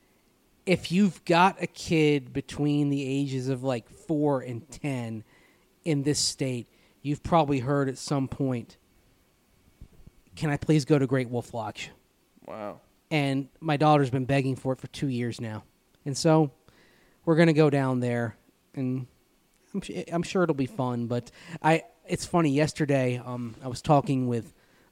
If you've got a kid between the ages of like 4 and 10 in this state, you've probably heard at some point, can I please go to Great Wolf Lodge? Wow. And my daughter's been begging for it for 2 years now. And so we're going to go down there, and I'm sure it'll be fun. But it's funny, yesterday I was talking with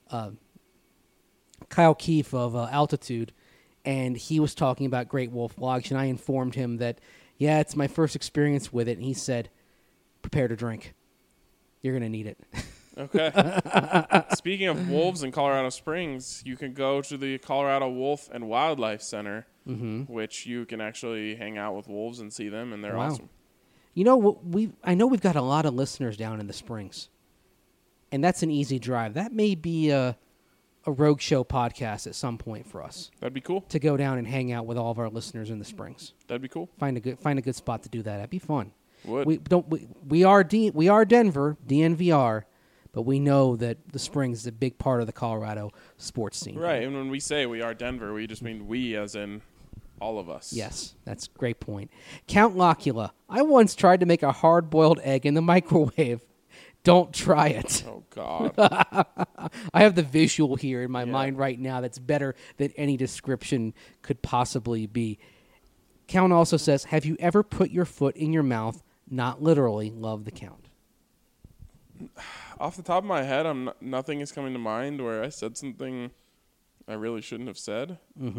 Kyle Keefe of Altitude, and he was talking about Great Wolf Lodge, and I informed him that, yeah, it's my first experience with it, and he said, prepare to drink. You're going to need it. Okay. Speaking of wolves in Colorado Springs, you can go to the Colorado Wolf and Wildlife Center, which you can actually hang out with wolves and see them, and they're Wow. awesome. You know, I know we've got a lot of listeners down in the Springs, and that's an easy drive. That may be a Rogue Show podcast at some point for us That'd be cool. to go down and hang out with all of our listeners in the Springs. That'd be cool. Find a good spot to do that. That'd be fun. Would. We are Denver, DNVR, but we know that the Springs is a big part of the Colorado sports scene. Right, and when we say we are Denver, we just mean we as in all of us. Yes, that's a great point. Count Locula. I once tried to make a hard-boiled egg in the microwave. Don't try it. Oh, God. I have the visual here in my mind right now that's better than any description could possibly be. Count also says, have you ever put your foot in your mouth? Not literally. Love the Count. Off the top of my head, nothing is coming to mind where I said something I really shouldn't have said.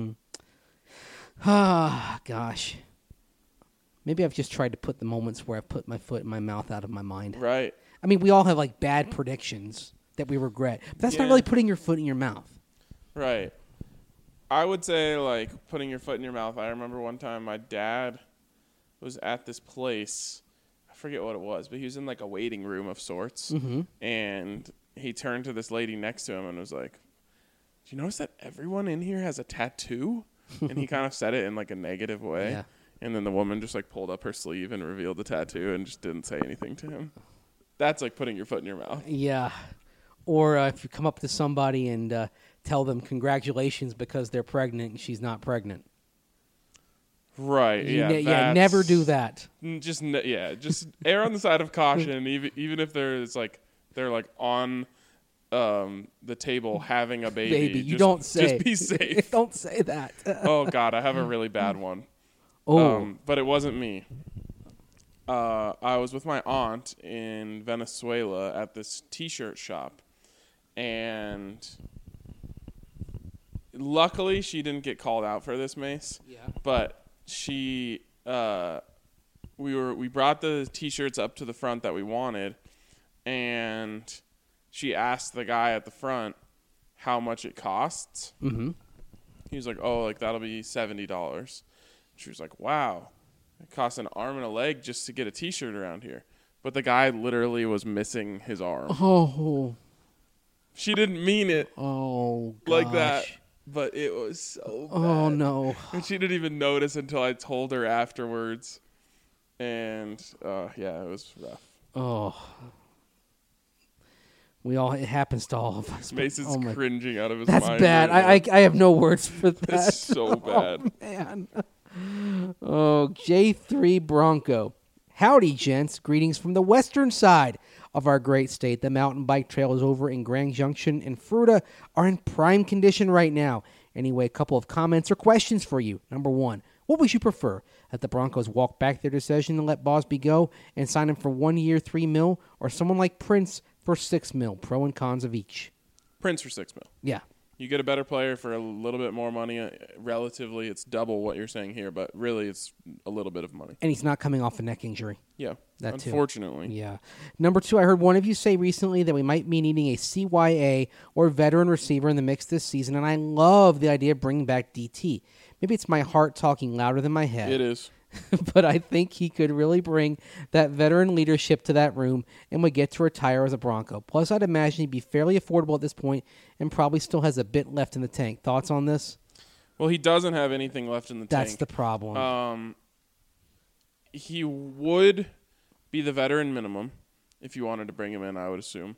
Ah, gosh. Maybe I've just tried to put the moments where I put my foot in my mouth out of my mind. Right. I mean, we all have like bad predictions that we regret. But that's not Yeah. really putting your foot in your mouth. Right. I would say, like, putting your foot in your mouth. I remember one time my dad was at this place. I forget what it was, but he was in, like, a waiting room of sorts. And he turned to this lady next to him and was like, do you notice that everyone in here has a tattoo? And he kind of said it in, like, a negative way. Yeah. And then the woman just, like, pulled up her sleeve and revealed the tattoo and just didn't say anything to him. That's like putting your foot in your mouth. Yeah. Or if you come up to somebody and tell them congratulations because they're pregnant and she's not pregnant. Right. Yeah. Never do that. Just err on the side of caution. Even if they're like on the table having a baby. You don't say. Just be safe. Don't say that. Oh God, I have a really bad one. But it wasn't me. I was with my aunt in Venezuela at this T-shirt shop, and luckily she didn't get called out for this, Mace. Yeah. But she, we brought the T-shirts up to the front that we wanted, and she asked the guy at the front how much it costs. Mm-hmm. He was like, "Oh, like that'll be $70." She was like, "Wow. It costs an arm and a leg just to get a T-shirt around here." But the guy literally was missing his arm. Oh. She didn't mean it like that, gosh. but it was so bad. Oh, no. And she didn't even notice until I told her afterwards. And, yeah, it was rough. Oh. It happens to all of us. Mason's cringing out of his That's mind. bad. right now. I have no words for that. That's so bad. Oh, man. Oh, J3 Bronco. Howdy, gents. Greetings from the western side of our great state. The mountain bike trails over in Grand Junction and Fruita are in prime condition right now. Anyway, a couple of comments or questions for you. Number one, what would you prefer? That the Broncos walk back their decision and let Bosby go and sign him for 1 year, $3 million, or someone like Prince for $6 million? Pro and cons of each. Prince for $6 million. Yeah. You get a better player for a little bit more money. Relatively, it's double what you're saying here, but really it's a little bit of money. And he's not coming off a neck injury. Yeah, That too. unfortunately. Yeah. Number two, I heard one of you say recently that we might be needing a CYA or veteran receiver in the mix this season, and I love the idea of bringing back DT. Maybe it's my heart talking louder than my head. It is. But I think he could really bring that veteran leadership to that room and would get to retire as a Bronco. Plus, I'd imagine he'd be fairly affordable at this point and probably still has a bit left in the tank. Thoughts on this? Well, he doesn't have anything left in the tank. That's the problem. He would be the veteran minimum if you wanted to bring him in, I would assume.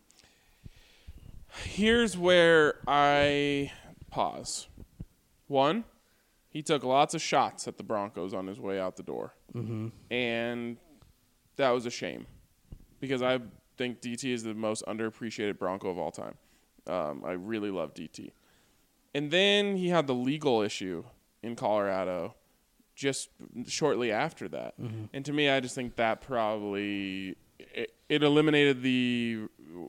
Here's where I pause. One, he took lots of shots at the Broncos on his way out the door. Mm-hmm. And that was a shame because I think DT is the most underappreciated Bronco of all time. I really love DT. And then he had the legal issue in Colorado just shortly after that. Mm-hmm. And to me, I just think that probably it eliminated the,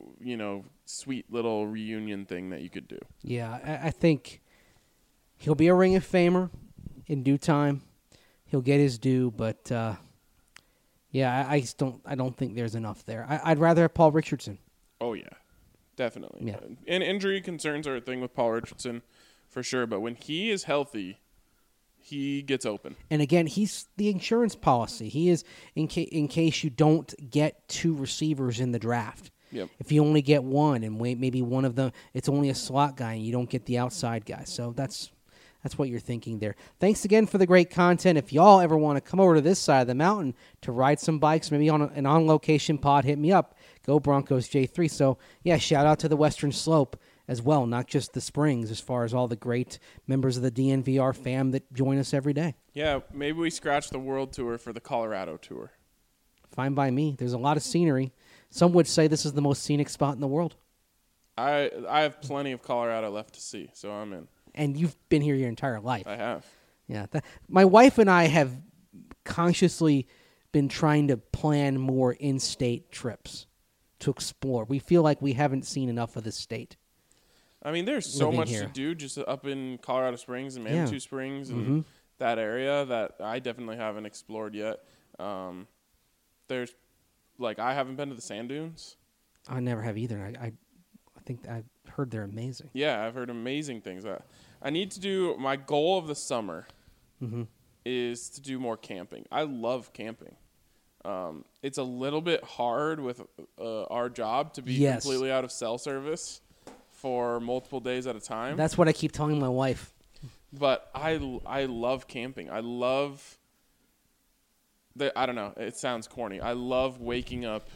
sweet little reunion thing that you could do. Yeah, I think he'll be a Ring of Famer in due time. He'll get his due, but I don't think there's enough there. I'd rather have Paul Richardson. Oh yeah, Definitely. Yeah. And injury concerns are a thing with Paul Richardson for sure. But when he is healthy, he gets open. And again, he's the insurance policy. He is in case you don't get 2 receivers in the draft. Yep. If you only get one and maybe one of them, it's only a slot guy and you don't get the outside guy. So that's what you're thinking there. Thanks again for the great content. If y'all ever want to come over to this side of the mountain to ride some bikes, maybe on an on-location pod, hit me up. Go Broncos J3. So, yeah, shout out to the Western Slope as well, not just the Springs, as far as all the great members of the DNVR fam that join us every day. Yeah, maybe we scratch the world tour for the Colorado tour. Fine by me. There's a lot of scenery. Some would say this is the most scenic spot in the world. I have plenty of Colorado left to see, so I'm in. And you've been here your entire life. I have. Yeah. My wife and I have consciously been trying to plan more in-state trips to explore. We feel like we haven't seen enough of this state. I mean, there's so much here to do just up in Colorado Springs and Manitou Springs and that area that I definitely haven't explored yet. There's, I haven't been to the sand dunes. I never have either. I think I've heard they're amazing. Yeah, I've heard amazing things. I need to do, my goal of the summer is to do more camping. I love camping. It's a little bit hard with our job to be completely out of cell service for multiple days at a time. That's what I keep telling my wife. But I love camping. I love I don't know. It sounds corny. I love waking up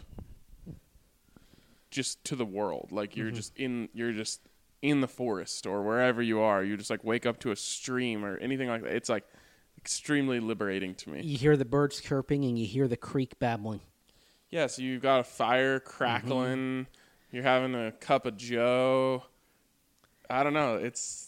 just to the world. Like you're just in the forest or wherever you are. You just wake up to a stream or anything like that. It's extremely liberating to me. You hear the birds chirping and you hear the creek babbling. Yeah, so you've got a fire crackling. You're having a cup of joe. I don't know.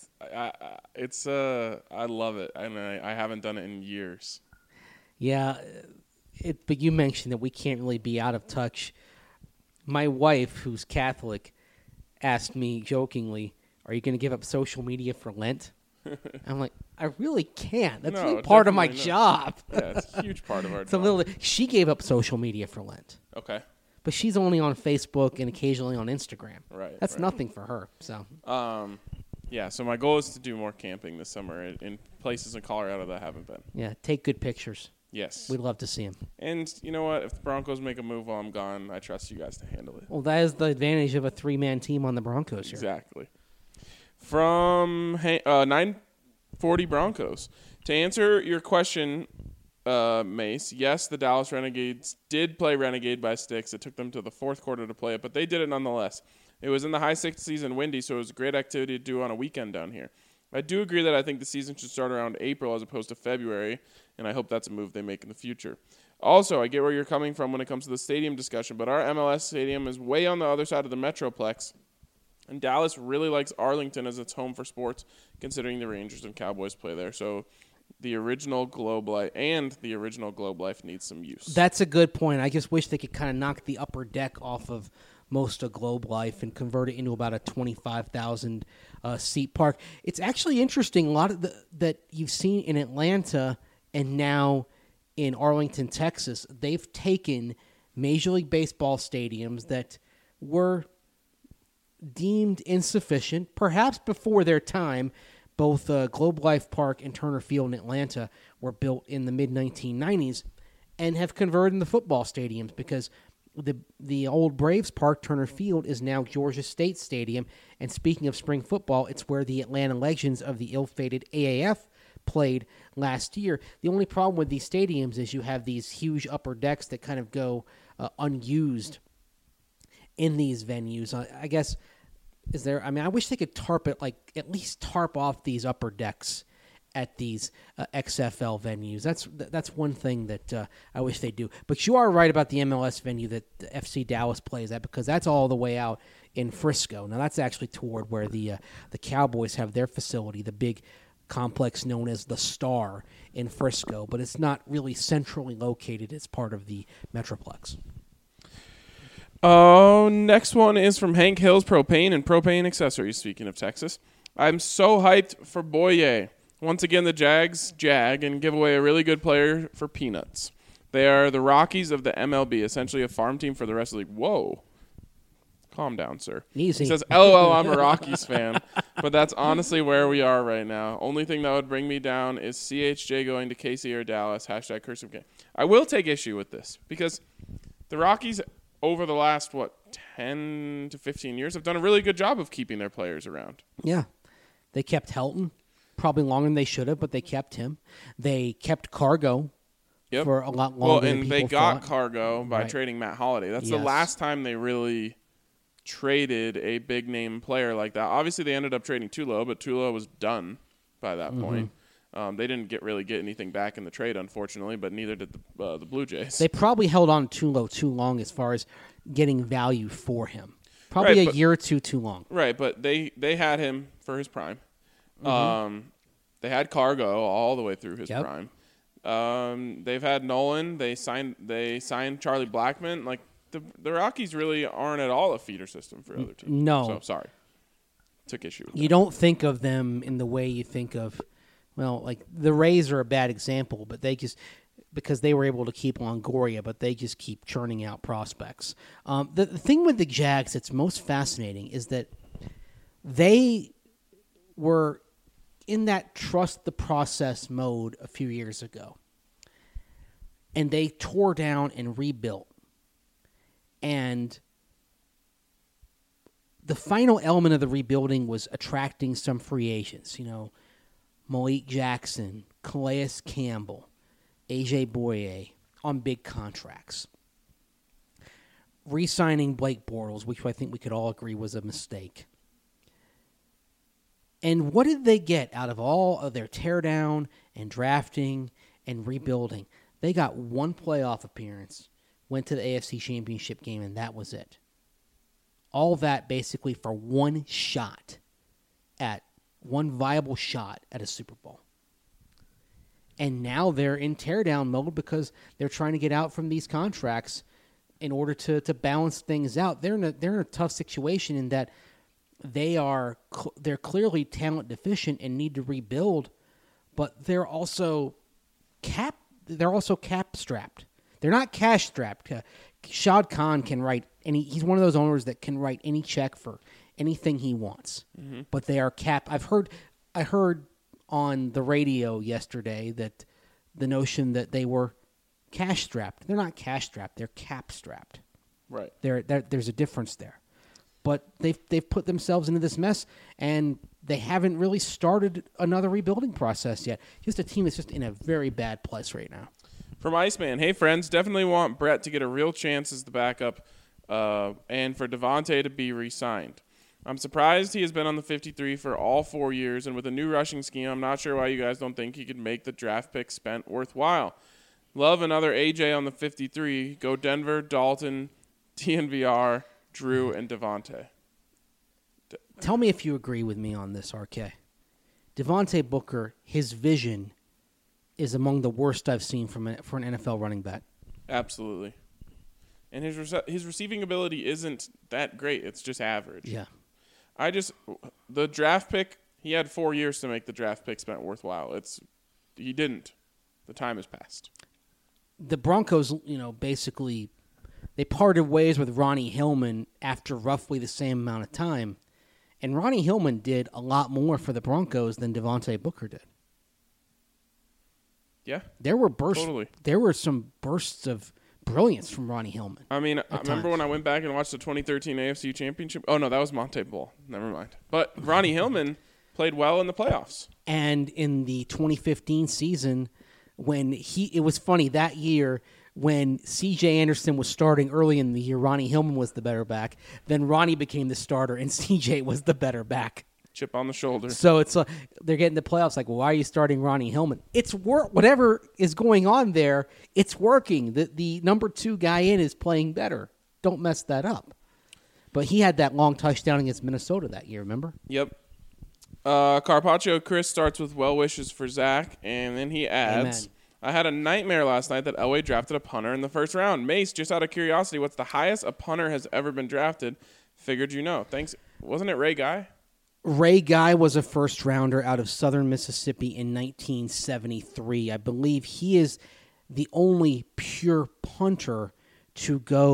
I love it, and I haven't done it in years. Yeah, but you mentioned that we can't really be out of touch. My wife, who's Catholic, asked me jokingly, "Are you going to give up social media for Lent?" I'm like, I really can't. That's really part of my job. Yeah, it's a huge part of our job. She gave up social media for Lent. Okay. But she's only on Facebook and occasionally on Instagram. Right. That's nothing for her. So. Yeah. So my goal is to do more camping this summer in places in Colorado that I haven't been. Yeah. Take good pictures. Yes. We'd love to see them. And you know what? If the Broncos make a move while I'm gone, I trust you guys to handle it. Well, that is the advantage of a 3-man team on the Broncos here. Exactly. From 940 Broncos. To answer your question, Mace, yes, the Dallas Renegades did play Renegade by sticks. It took them to the fourth quarter to play it, but they did it nonetheless. It was in the high 60s and windy, so it was a great activity to do on a weekend down here. I do agree that I think the season should start around April as opposed to February, and I hope that's a move they make in the future. Also, I get where you're coming from when it comes to the stadium discussion, but our MLS stadium is way on the other side of the Metroplex, and Dallas really likes Arlington as its home for sports, considering the Rangers and Cowboys play there. So the original Globe Life needs some use. That's a good point. I just wish they could kind of knock the upper deck off of most of Globe Life and convert it into about a 25,000 seat park. It's actually interesting. A lot of that you've seen in Atlanta and now in Arlington, Texas, they've taken Major League Baseball stadiums that were deemed insufficient, perhaps before their time. Both Globe Life Park and Turner Field in Atlanta were built in the mid-1990s and have converted into football stadiums because the old Braves Park, Turner Field, is now Georgia State Stadium. And speaking of spring football, it's where the Atlanta Legends of the ill-fated AAF played last year. The only problem with these stadiums is you have these huge upper decks that kind of go unused in these venues. I guess... I wish they could at least tarp off these upper decks at these XFL venues. That's one thing that I wish they do. But you are right about the MLS venue that the FC Dallas plays at, because that's all the way out in Frisco. Now that's actually toward where the Cowboys have their facility, the big complex known as the Star in Frisco, but it's not really centrally located as part of the Metroplex. Oh, next one is from Hank Hills Propane and Propane Accessories, speaking of Texas. I'm so hyped for Boye. Once again, the Jags jag and give away a really good player for peanuts. They are the Rockies of the MLB, essentially a farm team for the rest of the league. Whoa. Calm down, sir. Easy. He says, LOL, I'm a Rockies fan. But that's honestly where we are right now. Only thing that would bring me down is CHJ going to KC or Dallas. # cursive game. I will take issue with this because the Rockies, over the last, 10 to 15 years, have done a really good job of keeping their players around. Yeah. They kept Helton, probably longer than they should have, but they kept him. They kept Cargo for a lot longer than people they got thought. Cargo by trading Matt Holliday. That's the last time they really traded a big-name player like that. Obviously, they ended up trading Tulo, but Tulo was done by that point. They didn't really get anything back in the trade, unfortunately, but neither did the Blue Jays. They probably held on to Tulo too long as far as getting value for him. Probably a year or two too long. Right, but they had him for his prime. They had Cargo all the way through his prime. They've had Nolan. They signed Charlie Blackmon. Like the Rockies really aren't at all a feeder system for other teams. No. So sorry. Took issue with You don't think of them in the way you think of, like the Rays are a bad example, but they just because they were able to keep Longoria, but they just keep churning out prospects. The thing with the Jags that's most fascinating is that they were in that trust the process mode a few years ago. And they tore down and rebuilt. And the final element of the rebuilding was attracting some free agents. Malik Jackson, Calais Campbell, AJ Boye on big contracts. Re-signing Blake Bortles, which I think we could all agree was a mistake. And what did they get out of all of their teardown and drafting and rebuilding? They got one playoff appearance, went to the AFC Championship game, and that was it. All that basically for one viable shot at a Super Bowl. And now they're in teardown mode because they're trying to get out from these contracts in order to balance things out. They're in a tough situation in that they're clearly talent deficient and need to rebuild, but they're also cap strapped. They're not cash strapped. Shad Khan can write he's one of those owners that can write any check for anything he wants. Mm-hmm. But they are capped. I heard on the radio yesterday that the notion that they were cash strapped. They're not cash strapped. They're cap strapped. Right. There's a difference there. But they've put themselves into this mess, and they haven't really started another rebuilding process yet. Just a team that's just in a very bad place right now. From Iceman, hey friends, definitely want Brett to get a real chance as the backup, and for Devontae to be re-signed. I'm surprised he has been on the 53 for all 4 years, and with a new rushing scheme, I'm not sure why you guys don't think he could make the draft pick spent worthwhile. Love another AJ on the 53. Go Denver, Dalton, DNVR, Drew, and Devontae. Tell me if you agree with me on this, RK. Devontae Booker, his vision is among the worst I've seen for an NFL running back. Absolutely. And his receiving ability isn't that great. It's just average. Yeah. The draft pick, he had 4 years to make the draft pick spent worthwhile. He didn't. The time has passed. The Broncos, basically, they parted ways with Ronnie Hillman after roughly the same amount of time. And Ronnie Hillman did a lot more for the Broncos than Devontae Booker did. Yeah. There were bursts. Totally. There were some bursts of brilliance from Ronnie Hillman. I mean, I remember when I went back and watched the 2013 AFC Championship. Oh, no, that was Monte Ball. Never mind. But Ronnie Hillman played well in the playoffs. And in the 2015 season, when it was funny, that year when C.J. Anderson was starting early in the year, Ronnie Hillman was the better back. Then Ronnie became the starter, and C.J. was the better back. Chip on the shoulder. So it's they're getting the playoffs. Like, well, why are you starting Ronnie Hillman? It's whatever is going on there. It's working. The number 2 guy in is playing better. Don't mess that up. But he had that long touchdown against Minnesota that year. Remember? Yep. Carpaccio Chris starts with well wishes for Zach, and then he adds, Amen. I had a nightmare last night that Elway drafted a punter in the first round. Mace, just out of curiosity, what's the highest a punter has ever been drafted? Figured you know. Thanks. Wasn't it Ray Guy? Ray Guy was a first-rounder out of southern Mississippi in 1973. I believe he is the only pure punter to go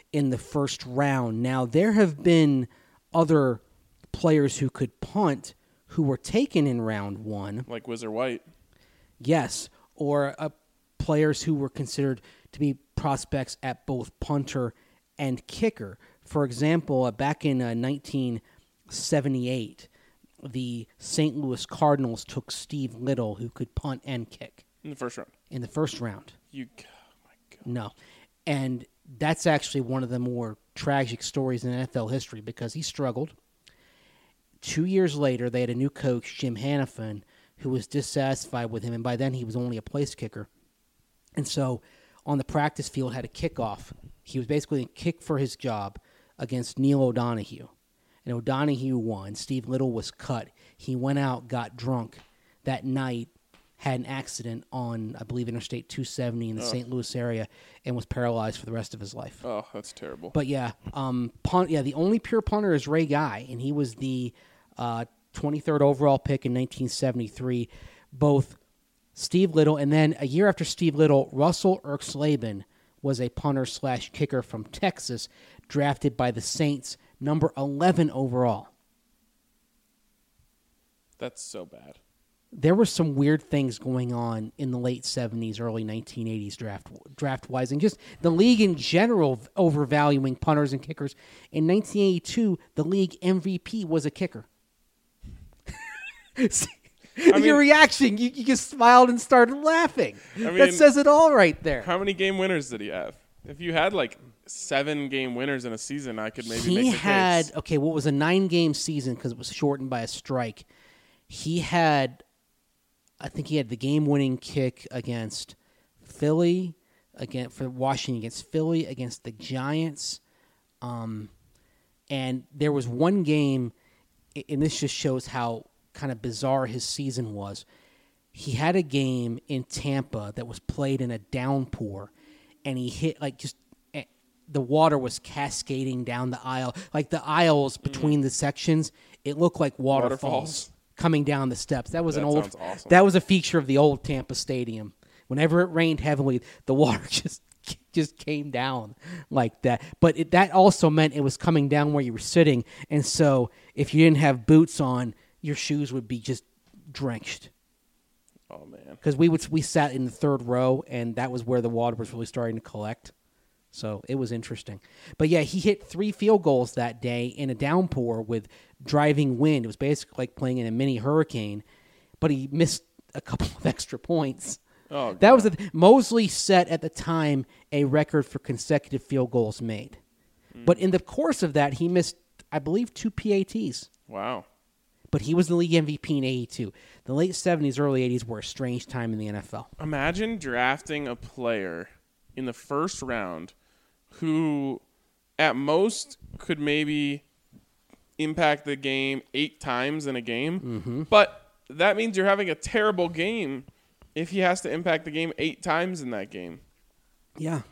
in the first round. Now, there have been other players who could punt who were taken in round 1. Like Whizzer White. Yes, or players who were considered to be prospects at both punter and kicker. For example, back in 1978, the St. Louis Cardinals took Steve Little, who could punt and kick. In the first round. In the first round. Oh my God. No. And that's actually one of the more tragic stories in NFL history because he struggled. 2 years later, they had a new coach, Jim Hanifin, who was dissatisfied with him, and by then he was only a place kicker. And so on the practice field had a kickoff. He was basically a kick for his job against Neil O'Donoghue. And O'Donoghue won. Steve Little was cut. He went out, got drunk that night, had an accident on, I believe, Interstate 270 in the St. Louis area, and was paralyzed for the rest of his life. Oh, that's terrible. But the only pure punter is Ray Guy, and he was the 23rd overall pick in 1973. Both Steve Little, and then a year after Steve Little, Russell Erxleben was a punter/kicker from Texas, drafted by the Saints, number 11 overall. That's so bad. There were some weird things going on in the late 70s, early 1980s draft-wise, and just the league in general overvaluing punters and kickers. In 1982, the league MVP was a kicker. Your reaction, you just smiled and started laughing. That says it all right there. How many game winners did he have? If you had like 7 game winners in a season, I could maybe make the case. Okay, what was a 9-game season because it was shortened by a strike. I think he had the game-winning kick against Philly, for Washington against Philly, against the Giants. And there was one game, and this just shows how kind of bizarre his season was. He had a game in Tampa that was played in a downpour, and he hit the water was cascading down the aisle. Like the aisles between the sections, it looked like waterfalls coming down the steps. That was awesome. That was a feature of the old Tampa Stadium. Whenever it rained heavily, the water just came down like that. But that also meant it was coming down where you were sitting, and so if you didn't have boots on, your shoes would be just drenched. Oh man! Because we sat in the third row, and that was where the water was really starting to collect. So it was interesting. But yeah, he hit 3 field goals that day in a downpour with driving wind. It was basically like playing in a mini hurricane, but he missed a couple of extra points. Oh, God. That was Mosley set at the time a record for consecutive field goals made. But in the course of that, he missed, I believe, 2 PATs. Wow. But he was the league MVP in 82. The late 70s, early 80s were a strange time in the NFL. Imagine drafting a player in the first round who at most could maybe impact the game 8 times in a game. Mm-hmm. But that means you're having a terrible game if he has to impact the game 8 times in that game. Yeah.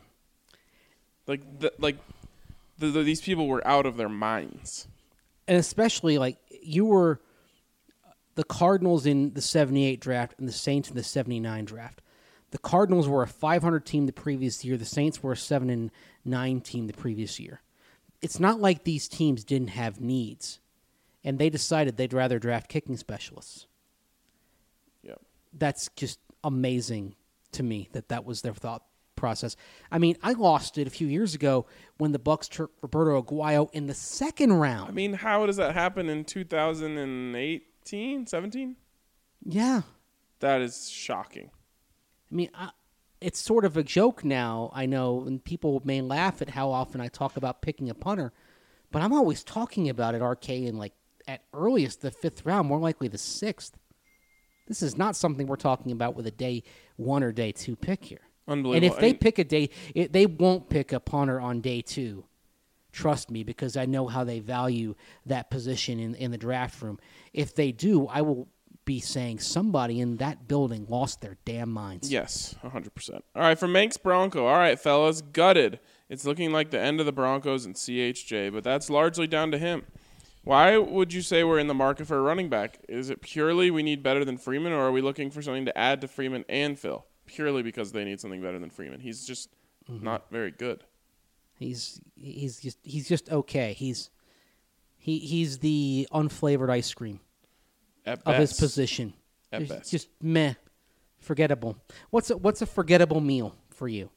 These people were out of their minds. And especially, you were the Cardinals in the 78 draft and the Saints in the 79 draft. The Cardinals were a 500 team the previous year. The Saints were a 7-9 team the previous year. It's not like these teams didn't have needs, and they decided they'd rather draft kicking specialists. Yep. That's just amazing to me that was their thought process. I mean, I lost it a few years ago when the Bucs took Roberto Aguayo in the second round. I mean, how does that happen in 2018, 17? Yeah. That is shocking. I mean, it's sort of a joke now, I know, and people may laugh at how often I talk about picking a punter, but I'm always talking about it, RK, in at earliest the 5th round, more likely the 6th. This is not something we're talking about with a day 1 or day 2 pick here. Unbelievable. And if they pick they won't pick a punter on day 2. Trust me, because I know how they value that position in the draft room. If they do, I will be saying somebody in that building lost their damn minds. Yes, 100%. All right, for Manx Bronco. All right, fellas, gutted. It's looking like the end of the Broncos and CHJ, but that's largely down to him. Why would you say we're in the market for a running back? Is it purely we need better than Freeman, or are we looking for something to add to Freeman and Phil? Purely because they need something better than Freeman. He's just not very good. He's just okay. He's the unflavored ice cream At of his best. position. At It's best. just meh, forgettable. What's a forgettable meal for you?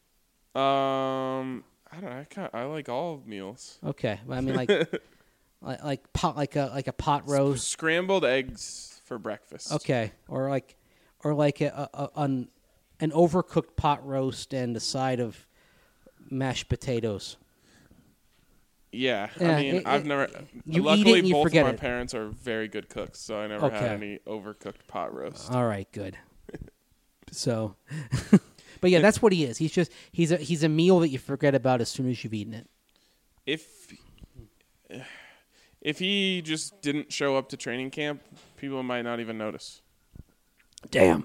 I don't know. I like all meals. Okay, well, I mean like a pot roast. Scrambled eggs for breakfast. Okay, or like an overcooked pot roast and a side of mashed potatoes. Yeah, Yeah, I mean, I've never. you eat Luckily, it and you both of forget my it. parents are very good cooks, so I never had Okay. any overcooked pot roast. All right, good. So, but yeah, that's what he is. He's a meal that you forget about as soon as you've eaten it. If he just didn't show up to training camp, people might not even notice. Damn.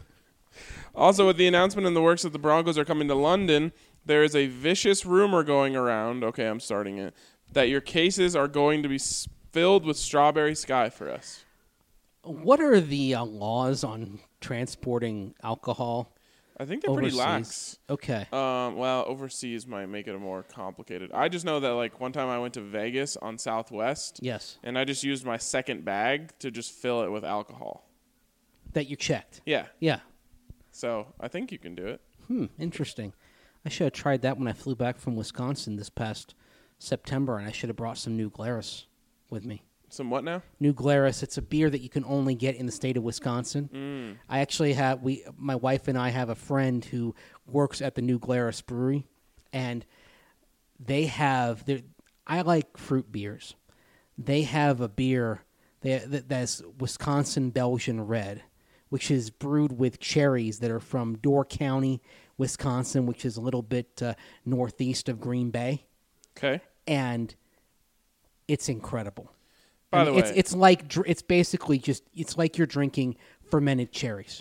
Also, with the announcement in the works that the Broncos are coming to London, there is a vicious rumor going around. Okay, I'm starting it. That your cases are going to be filled with strawberry sky for us. What are the laws on transporting alcohol? I think they're pretty overseas? lax. Okay. Well, overseas might make it more complicated. I just know that like one time I went to Vegas on Southwest, Yes. and I just used my second bag to just fill it with alcohol. That you checked. Yeah, Yeah. so I think you can do it. Interesting. I should have tried that when I flew back from Wisconsin this past September, and I should have brought some New Glarus with me. Some what now? New Glarus. It's a beer that you can only get in the state of Wisconsin. I actually have my wife and I have a friend who works at the New Glarus Brewery, and they have I like fruit beers. They have a beer that's Wisconsin Belgian Red, which is brewed with cherries that are from Door County, Wisconsin, which is a little bit northeast of Green Bay, Okay. and it's incredible. By the way, it's basically just it's like you're drinking fermented cherries.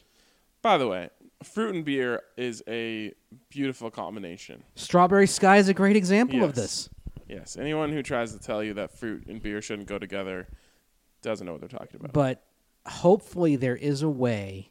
Fruit and beer is a beautiful combination. Strawberry Sky is a great example of Yes. this. Yes. Anyone who tries to tell you that fruit and beer shouldn't go together doesn't know what they're talking about. But hopefully there is a way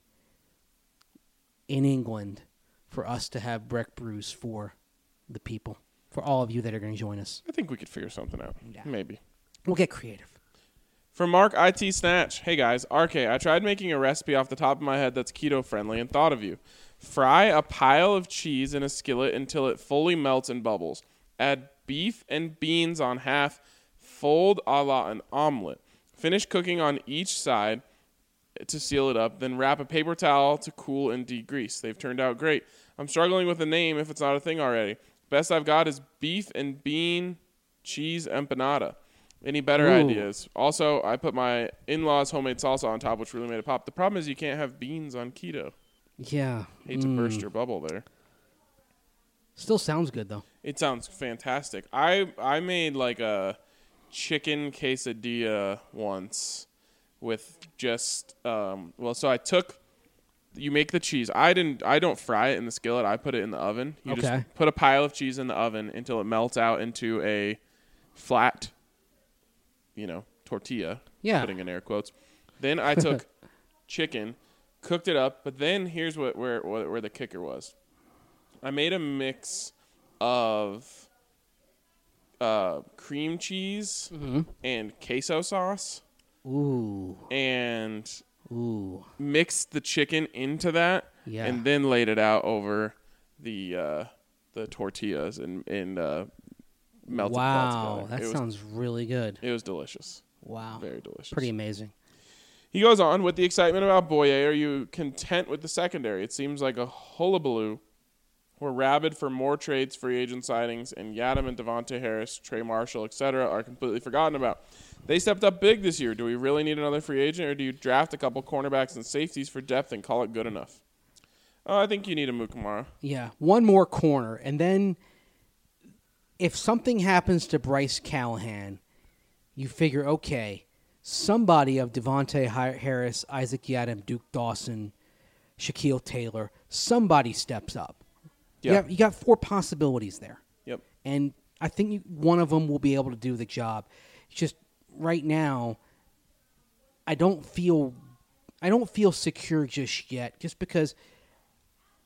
in England for us to have Breck brews for the people, for all of you that are going to join us. I think we could figure something out. Yeah. Maybe. We'll get creative. From Mark IT Snatch. Hey guys, RK, I tried making a recipe off the top of my head that's keto friendly and thought of you. Fry a pile of cheese in a skillet until it fully melts and bubbles. Add beef and beans on half. Fold a la an omelet. Finish cooking on each side to seal it up. Then wrap a paper towel to cool and degrease. They've turned out great. I'm struggling with a name if it's not a thing already. Best I've got is beef and bean cheese empanada. Any better Ooh. ideas? Also, I put my in-laws' homemade salsa on top, which really made it pop. The problem is you can't have beans on keto. Yeah. Hate to burst your bubble there. Still sounds good, though. It sounds fantastic. I made like a chicken quesadilla once with just so I took you make the cheese. I don't fry it in the skillet. I put it in the oven. You Okay. just put a pile of cheese in the oven until it melts out into a flat tortilla. Yeah. Putting in air quotes. Then I took chicken, cooked it up, but then here's where the kicker was. I made a mix of cream cheese and queso sauce Ooh. and Ooh. mixed the chicken into that Yeah. and then laid it out over the tortillas and melted Wow. that That together. sounds really good. It was delicious. Wow. Very delicious. Pretty amazing. He goes on, with the excitement about Boye, are you content with the secondary? It seems like a hullabaloo. We're rabid for more trades, free agent signings, and Yadam and Devontae Harris, Trey Marshall, etc. are completely forgotten about. They stepped up big this year. Do we really need another free agent, or do you draft a couple cornerbacks and safeties for depth and call it good enough? Oh, I think you need a Mukamara. Yeah. One more corner. And then if something happens to Bryce Callahan, you figure, okay, somebody of Devontae Harris, Isaac Yadam, Duke Dawson, Shaquille Taylor, somebody steps up. Yeah. You got 4 possibilities there. Yep. And I think one of them will be able to do the job. It's just right now, I don't feel secure just yet, just because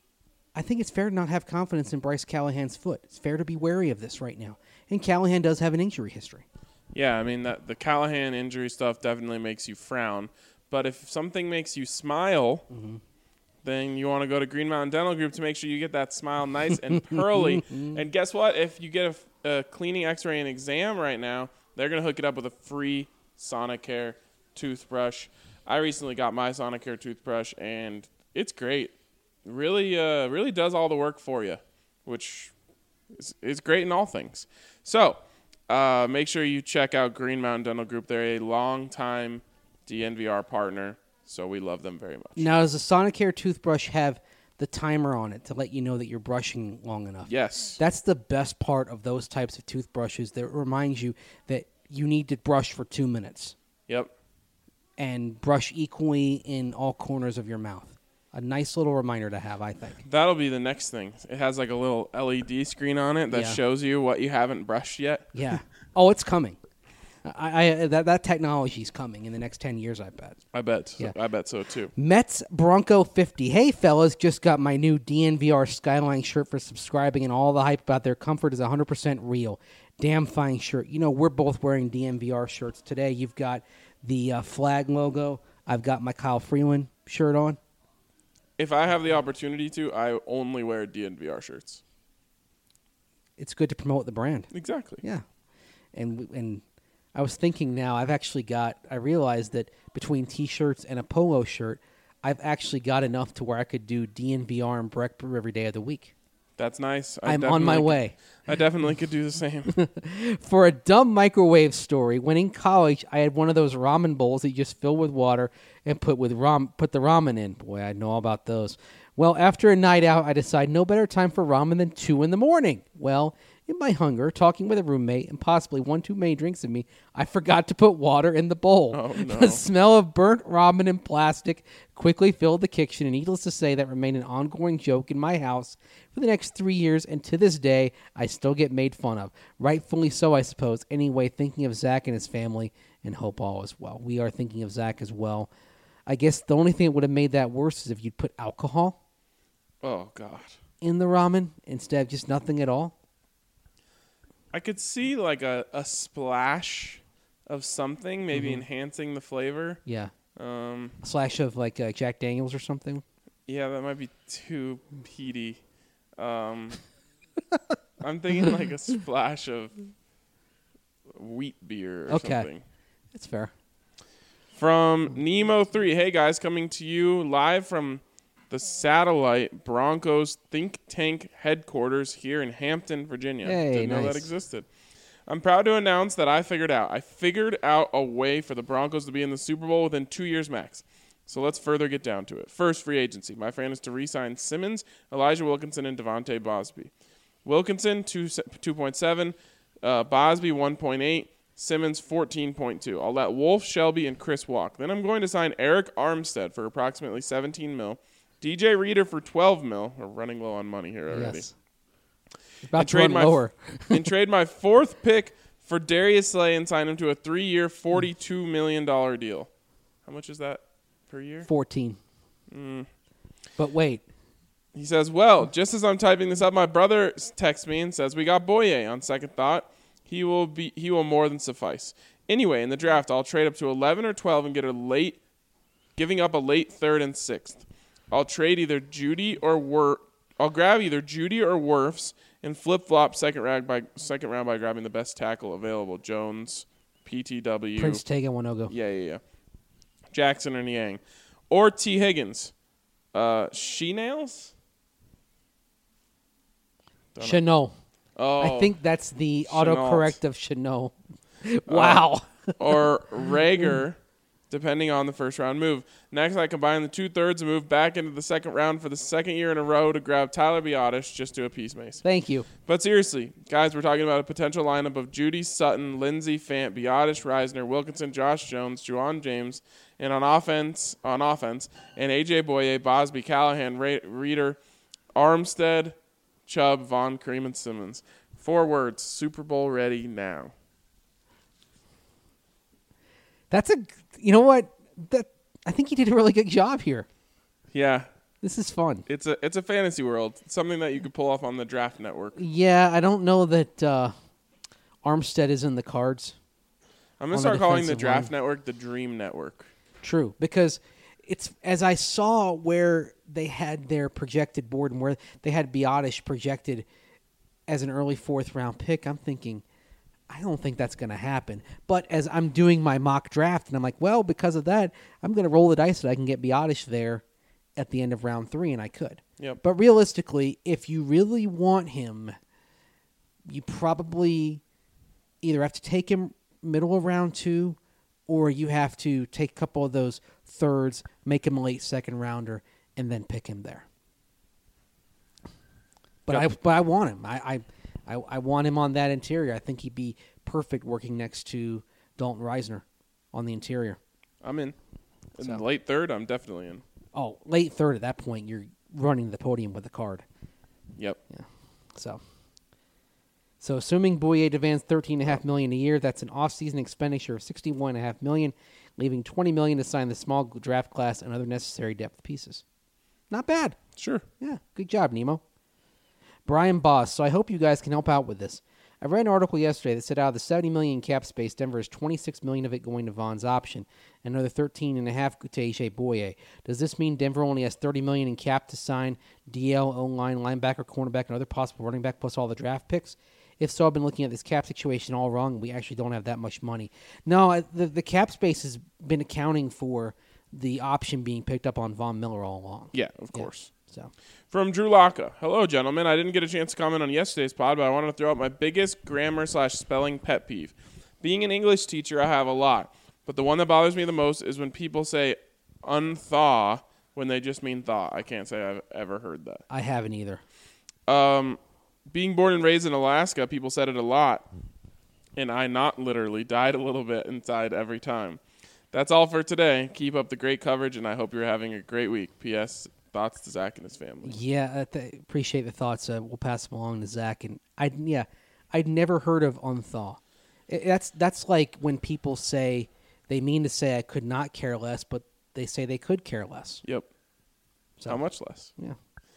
I think it's fair to not have confidence in Bryce Callahan's foot. It's fair to be wary of this right now. And Callahan does have an injury history. Yeah, I mean, the Callahan injury stuff definitely makes you frown. But if something makes you smile, then you want to go to Green Mountain Dental Group to make sure you get that smile nice and pearly. And guess what? If you get a cleaning x-ray and exam right now, they're going to hook it up with a free Sonicare toothbrush. I recently got my Sonicare toothbrush, and it's great. Really does all the work for you, which is great in all things. So make sure you check out Green Mountain Dental Group. They're a long-time DNVR partner, so we love them very much. Now, does the Sonicare toothbrush have the timer on it to let you know that you're brushing long enough? Yes. That's the best part of those types of toothbrushes, that reminds you that you need to brush for 2 minutes. Yep. And brush equally in all corners of your mouth. A nice little reminder to have, I think. That'll be the next thing. It has like a little LED screen on it that shows you what you haven't brushed yet. Yeah. Oh, it's coming. That technology's coming in the next 10 years, I bet. I bet. Yeah. I bet so too. Mets Bronco 50. Hey, fellas, just got my new DNVR Skyline shirt for subscribing, and all the hype about their comfort is 100% real. Damn fine shirt. You know, we're both wearing DNVR shirts today. You've got the flag logo. I've got my Kyle Freeland shirt on. If I have the opportunity to, I only wear DNVR shirts. It's good to promote the brand. Exactly. Yeah. And I was thinking now, I realized that between T-shirts and a polo shirt, I've actually got enough to where I could do DNVR and Breck Brew every day of the week. That's nice. I'm on my way. I definitely could do the same. For a dumb microwave story, when in college, I had one of those ramen bowls that you just fill with water and put the ramen in. Boy, I know all about those. Well, after a night out, I decided no better time for ramen than 2 in the morning. Well, in my hunger, talking with a roommate, and possibly one too many drinks of me, I forgot to put water in the bowl. Oh, no. The smell of burnt ramen and plastic quickly filled the kitchen, and needless to say, that remained an ongoing joke in my house for the next 3 years, and to this day, I still get made fun of. Rightfully so, I suppose. Anyway, thinking of Zach and his family, and hope all is well. We are thinking of Zach as well. I guess the only thing that would have made that worse is if you'd put alcohol Oh, God. in the ramen instead of just nothing at all. I could see like a splash of something, maybe enhancing the flavor. Yeah. A slash of like Jack Daniels or something. Yeah, that might be too peaty. I'm thinking like a splash of wheat beer or something. That's fair. From Nemo3. Hey, guys, coming to you live from the Satellite Broncos think tank headquarters here in Hampton, Virginia. Hey, Didn't know nice. that existed. I'm proud to announce that I figured out a way for the Broncos to be in the Super Bowl within 2 years max. So let's further get down to it. First, free agency. My plan is to re-sign Simmons, Elijah Wilkinson, and Devontae Bosby. Wilkinson, 2.7. Bosby, 1.8. Simmons, 14.2. I'll let Wolf, Shelby, and Chris walk. Then I'm going to sign Eric Armstead for approximately $17 million. DJ Reader for $12 million. We're running low on money here already. Yes. About to run lower. And trade my fourth pick for Darius Slay and sign him to a 3-year, $42 million deal. How much is that per year? 14. But wait. He says, well, just as I'm typing this up, my brother texts me and says, we got Boye. On second thought, he will more than suffice. Anyway, in the draft, I'll trade up to 11 or 12 and giving up a late third and sixth. I'll trade either Judy or I'll grab either Judy or Wirfs and flip-flop second round by grabbing the best tackle available. Jones, PTW. Prince Tega Wanogo. Yeah. Jackson or Niang. Or T. Higgins. She-Nails? Chanel. Oh. I think that's the Chenault. autocorrect of Chanel. Wow. Or Rager, depending on the first-round move. Next, I combine the 2/3 and move back into the second round for the second year in a row to grab Tyler Biotish just to appease Mason. Thank you. But seriously, guys, we're talking about a potential lineup of Judy, Sutton, Lindsey, Fant, Biotish, Reisner, Wilkinson, Josh Jones, Juwan James, and on offense, and A.J. Boye, Bosby, Callahan, Reader, Armstead, Chubb, Vaughn, Kareem, and Simmons. 4 words, Super Bowl ready now. You know what? I think he did a really good job here. Yeah. This is fun. It's a fantasy world. Something that you could pull off on the Draft Network. Yeah, I don't know that Armstead is in the cards. I'm going to start calling the Draft Network the Dream Network. True, because it's as I saw where they had their projected board and where they had Biotish projected as an early 4th round pick, I'm thinking, I don't think that's going to happen. But as I'm doing my mock draft, and I'm like, well, because of that, I'm going to roll the dice that I can get Biotish there at the end of round 3, and I could. Yep. But realistically, if you really want him, you probably either have to take him middle of round 2, or you have to take a couple of those thirds, make him a late 2nd rounder, and then pick him there. But Yep. I want him. I want him on that interior. I think he'd be perfect working next to Dalton Reisner on the interior. I'm in. In So. the late 3rd, I'm definitely in. Oh, late 3rd at that point, you're running the podium with a card. Yep. Yeah. So assuming Boye demands $13.5 million a year, that's an off-season expenditure of $61.5 million, leaving $20 million to sign the small draft class and other necessary depth pieces. Not bad. Sure. Yeah, good job, Nemo. Brian Boss. So I hope you guys can help out with this. I read an article yesterday that said out of the $70 million cap space, Denver has $26 million of it going to Vaughn's option, and another $13.5 to AJ Boye. Does this mean Denver only has $30 million in cap to sign DL, O-line, linebacker, cornerback, and other possible running back, plus all the draft picks? If so, I've been looking at this cap situation all wrong. We actually don't have that much money. No, the cap space has been accounting for the option being picked up on Von Miller all along. Yeah, of course. So. From Drew Locka. Hello, gentlemen. I didn't get a chance to comment on yesterday's pod, but I wanted to throw out my biggest grammar/spelling pet peeve. Being an English teacher, I have a lot, but the one that bothers me the most is when people say unthaw when they just mean thaw. I can't say I've ever heard that. I haven't either. Being born and raised in Alaska, people said it a lot, and I not literally died a little bit inside every time. That's all for today. Keep up the great coverage, and I hope you're having a great week. P.S. Thoughts to Zach and his family. Yeah, appreciate the thoughts. We'll pass them along to Zach. And I'd never heard of unthaw. That's like when people say they mean to say I could not care less, but they say they could care less. Yep. So, How much less? Yeah.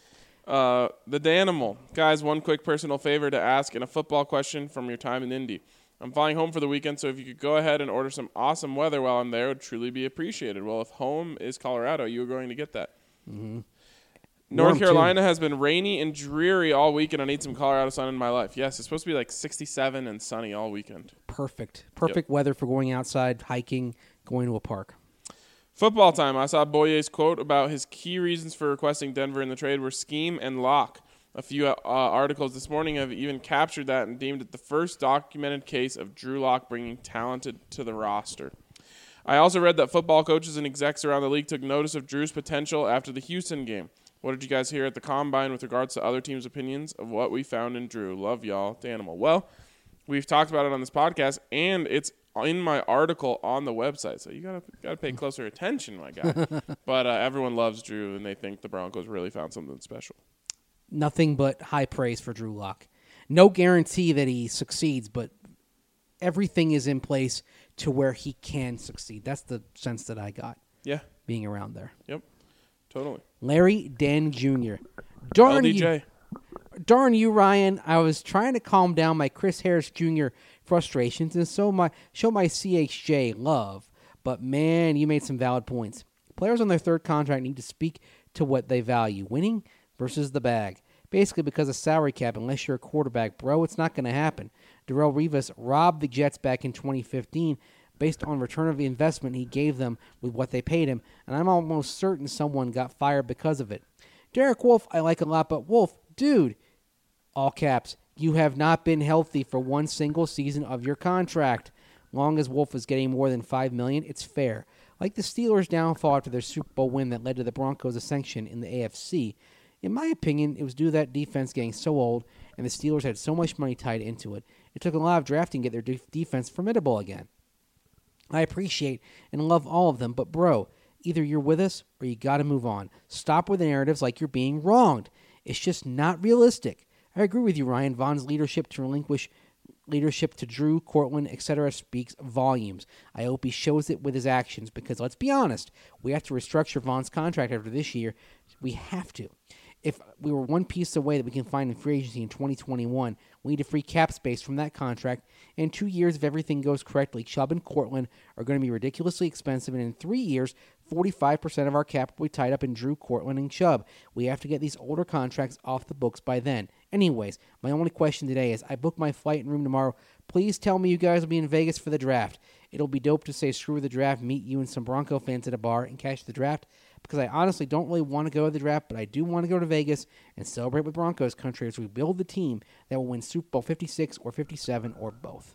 The Danimal. Guys, one quick personal favor to ask and a football question from your time in Indy. I'm flying home for the weekend, so if you could go ahead and order some awesome weather while I'm there, it would truly be appreciated. Well, if home is Colorado, you are going to get that. Mm-hmm. North Carolina has been rainy and dreary all weekend. I need some Colorado sun in my life. Yes, it's supposed to be like 67 and sunny all weekend. Perfect weather for going outside, hiking, going to a park. Football time. I saw Boye's quote about his key reasons for requesting Denver in the trade were scheme and lock. A few articles this morning have even captured that and deemed it the first documented case of Drew Lock bringing talented to the roster. I also read that football coaches and execs around the league took notice of Drew's potential after the Houston game. What did you guys hear at the Combine with regards to other teams' opinions of what we found in Drew? Love y'all, Danimal. Well, we've talked about it on this podcast, and it's in my article on the website, so you gotta pay closer attention, my guy. But everyone loves Drew, and they think the Broncos really found something special. Nothing but high praise for Drew Lock. No guarantee that he succeeds, but everything is in place to where he can succeed. That's the sense that I got. Yeah. Being around there. Yep. Totally. Larry Dan Jr. LDJ. Darn you, Ryan. I was trying to calm down my Chris Harris Jr. frustrations and show my CHJ love, but man, you made some valid points. Players on their third contract need to speak to what they value, winning versus the bag. Basically, because of salary cap, unless you're a quarterback, bro, it's not going to happen. Darrelle Revis robbed the Jets back in 2015 based on return of the investment he gave them with what they paid him, and I'm almost certain someone got fired because of it. Derek Wolfe, I like a lot, but Wolfe, dude, all caps, you have not been healthy for one single season of your contract. Long as Wolfe is getting more than $5 million, it's fair. Like the Steelers' downfall after their Super Bowl win that led to the Broncos' ascension in the AFC, in my opinion, it was due to that defense getting so old, and the Steelers had so much money tied into it. It took a lot of drafting to get their defense formidable again. I appreciate and love all of them, but bro, either you're with us or you got to move on. Stop with the narratives like you're being wronged. It's just not realistic. I agree with you, Ryan. Vaughn's leadership to relinquish leadership to Drew, Cortland, etc. speaks volumes. I hope he shows it with his actions because, let's be honest, we have to restructure Vaughn's contract after this year. We have to. If we were one piece away that we can find in free agency in 2021, we need to free cap space from that contract. In 2 years, if everything goes correctly, Chubb and Cortland are going to be ridiculously expensive, and in 3 years, 45% of our cap will be tied up in Drew, Cortland, and Chubb. We have to get these older contracts off the books by then. Anyways, my only question today is, I booked my flight and room tomorrow. Please tell me you guys will be in Vegas for the draft. It'll be dope to say screw the draft, meet you and some Bronco fans at a bar, and catch the draft, because I honestly don't really want to go to the draft, but I do want to go to Vegas and celebrate with Broncos country as we build the team that will win Super Bowl 56 or 57 or both.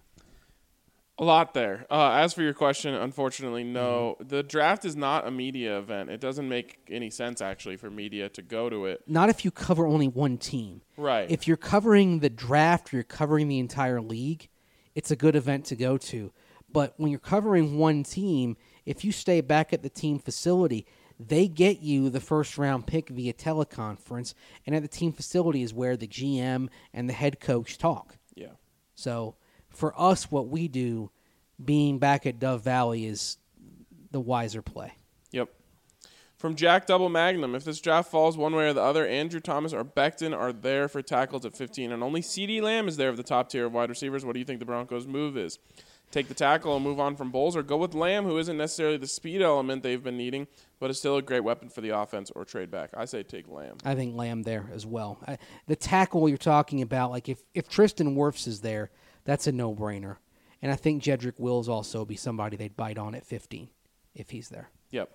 A lot there. As for your question, unfortunately, no. The draft is not a media event. It doesn't make any sense, actually, for media to go to it. Not if you cover only one team. Right. If you're covering the draft or you're covering the entire league, it's a good event to go to. But when you're covering one team, if you stay back at the team facility, they get you the first-round pick via teleconference, and at the team facility is where the GM and the head coach talk. Yeah. So for us, what we do, being back at Dove Valley, is the wiser play. Yep. From Jack Double Magnum, if this draft falls one way or the other, Andrew Thomas or Becton are there for tackles at 15, and only CeeDee Lamb is there of the top tier of wide receivers. What do you think the Broncos' move is? Take the tackle and move on from Bowles, or go with Lamb, who isn't necessarily the speed element they've been needing, but is still a great weapon for the offense, or trade back? I say take Lamb. I think Lamb there as well. The tackle you're talking about, like if Tristan Wirfs is there, that's a no-brainer. And I think Jedrick Wills also be somebody they'd bite on at 15 if he's there. Yep.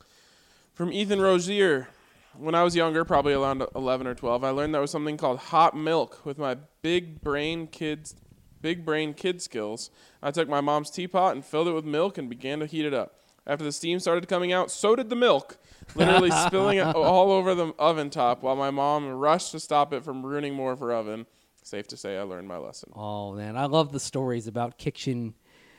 From Ethan Rozier, when I was younger, probably around 11 or 12, I learned there was something called hot milk with my big brain kid skills. I took my mom's teapot and filled it with milk and began to heat it up. After the steam started coming out, so did the milk, literally spilling it all over the oven top while my mom rushed to stop it from ruining more of her oven. Safe to say I learned my lesson. Oh, man. I love the stories about kitchen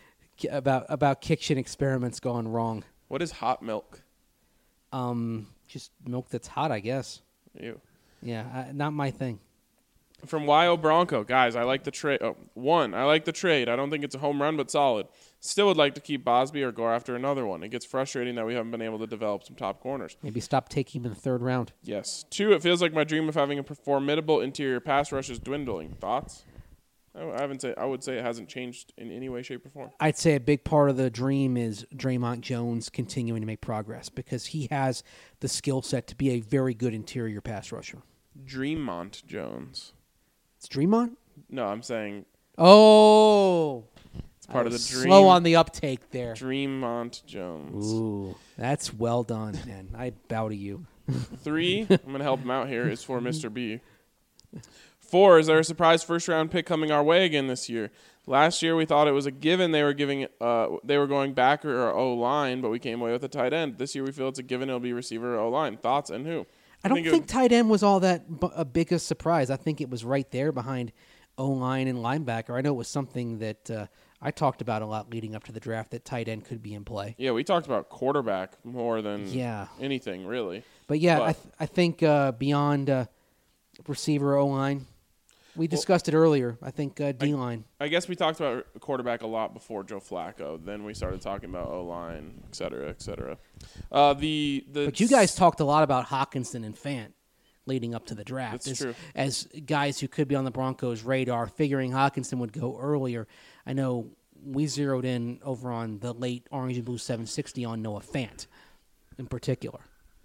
experiments gone wrong. What is hot milk? Just milk that's hot, I guess. Ew. Yeah, not my thing. From Y.O. Bronco, guys, I like the trade. I like the trade. I don't think it's a home run, but solid. Still would like to keep Bosby or go after another one. It gets frustrating that we haven't been able to develop some top corners. Maybe stop taking him in the third round. Yes. 2, it feels like my dream of having a formidable interior pass rush is dwindling. Thoughts? I would say it hasn't changed in any way, shape, or form. I'd say a big part of the dream is Draymond Jones continuing to make progress because he has the skill set to be a very good interior pass rusher. Dreammont Jones. It's Dreamont? No, I'm saying Oh, it's part of the dream. Slow on the uptake there. Dreammont Jones. Ooh, that's well done, man. I bow to you. 3, I'm going to help him out here, is for Mr. B. 4, is there a surprise first-round pick coming our way again this year? Last year we thought it was a given they were going back or O-line, but we came away with a tight end. This year we feel it's a given it'll be receiver or O-line. Thoughts and who? I don't think tight end was all that a biggest surprise. I think it was right there behind O-line and linebacker. I know it was something that I talked about a lot leading up to the draft, that tight end could be in play. Yeah, we talked about quarterback more than anything, really. But yeah, I think beyond receiver O-line, we discussed it earlier. I think D-line. I guess we talked about quarterback a lot before Joe Flacco. Then we started talking about O-line, et cetera, et cetera. But you guys talked a lot about Hockenson and Fant leading up to the draft. That's true. As guys who could be on the Broncos' radar, figuring Hockenson would go earlier. I know we zeroed in over on the late Orange and Blue 760 on Noah Fant in particular.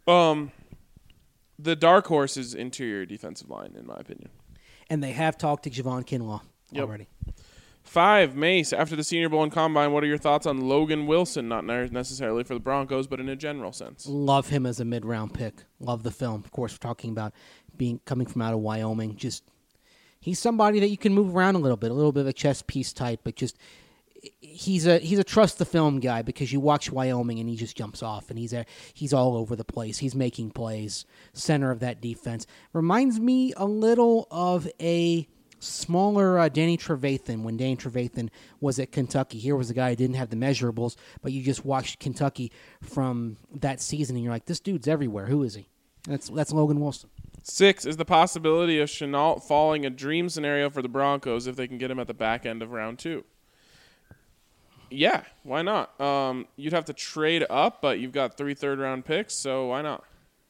The dark horse is interior defensive line, in my opinion. And they have talked to Javon Kinlaw already. 5, Mace, after the Senior Bowl and Combine, what are your thoughts on Logan Wilson? Not necessarily for the Broncos, but in a general sense. Love him as a mid-round pick. Love the film. Of course, we're talking about coming from out of Wyoming. Just he's somebody that you can move around a little bit of a chess piece type, but just he's a trust the film guy because you watch Wyoming and he just jumps off and he's all over the place. He's making plays, center of that defense. Reminds me a little of a smaller Danny Trevathan when Danny Trevathan was at Kentucky. Here was a guy who didn't have the measurables, but you just watched Kentucky from that season and you're like, this dude's everywhere. Who is he? That's Logan Wilson. 6 is the possibility of Chenault falling a dream scenario for the Broncos if they can get him at the back end of round 2. Yeah, why not? You'd have to trade up, but you've got 3 third-round picks, so why not?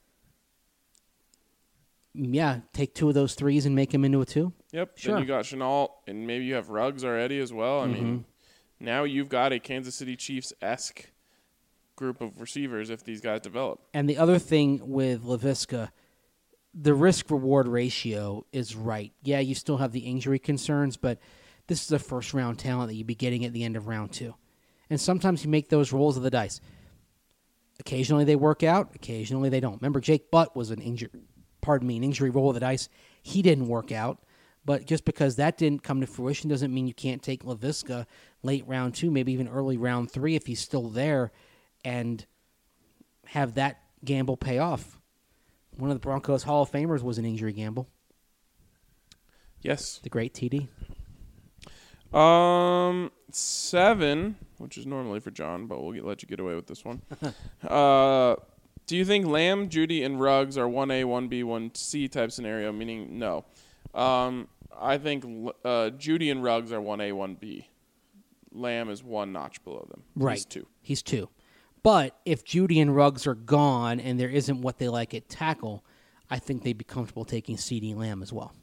Yeah, take 2 of those 3s and make them into a 2. Yep. Sure. Then you got Chenault, and maybe you have Ruggs already as well. I mean, now you've got a Kansas City Chiefs-esque group of receivers if these guys develop. And the other thing with Laviska, the risk-reward ratio is right. Yeah, you still have the injury concerns, but this is a first-round talent that you'd be getting at the end of round 2. And sometimes you make those rolls of the dice. Occasionally they work out. Occasionally they don't. Remember, Jake Butt was an injury roll of the dice. He didn't work out. But just because that didn't come to fruition doesn't mean you can't take Laviska late round 2, maybe even early round 3 if he's still there, and have that gamble pay off. One of the Broncos Hall of Famers was an injury gamble. Yes. The great TD. 7, which is normally for John, but we'll let you get away with this one. Do you think Lamb, Judy, and Ruggs are 1A, 1B, 1C type scenario, meaning no? I think Judy and Ruggs are 1A, 1B. Lamb is 1 notch below them. Right. He's 2. He's 2. But if Judy and Ruggs are gone and there isn't what they like at tackle, I think they'd be comfortable taking CeeDee Lamb as well.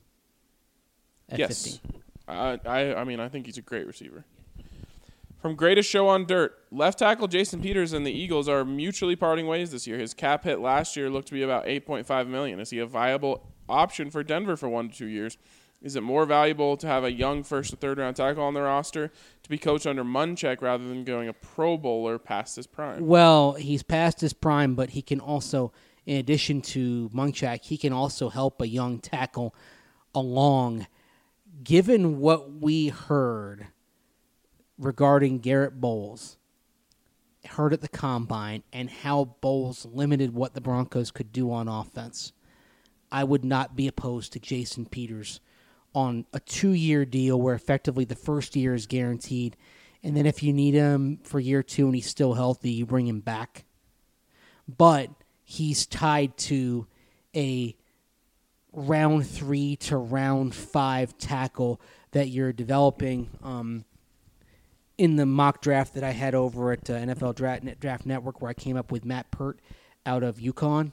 At Yes. 15. I mean, I think he's a great receiver. From Greatest Show on Dirt, left tackle Jason Peters and the Eagles are mutually parting ways this year. His cap hit last year looked to be about $8.5 million. Is he a viable option for Denver for 1 to 2 years? Is it more valuable to have a young first or third round tackle on the roster to be coached under Munchak rather than going a Pro Bowler past his prime? Well, he's past his prime, but he can also, in addition to Munchak, he can also help a young tackle along. Given what we heard regarding Garrett Bowles, heard at the Combine, and how Bowles limited what the Broncos could do on offense, I would not be opposed to Jason Peters on a 2-year deal where effectively the first year is guaranteed, and then if you need him for year 2 and he's still healthy, you bring him back. But he's tied to a round 3 to round 5 tackle that you're developing in the mock draft that I had over at NFL Draft Network, where I came up with Matt Pert out of UConn.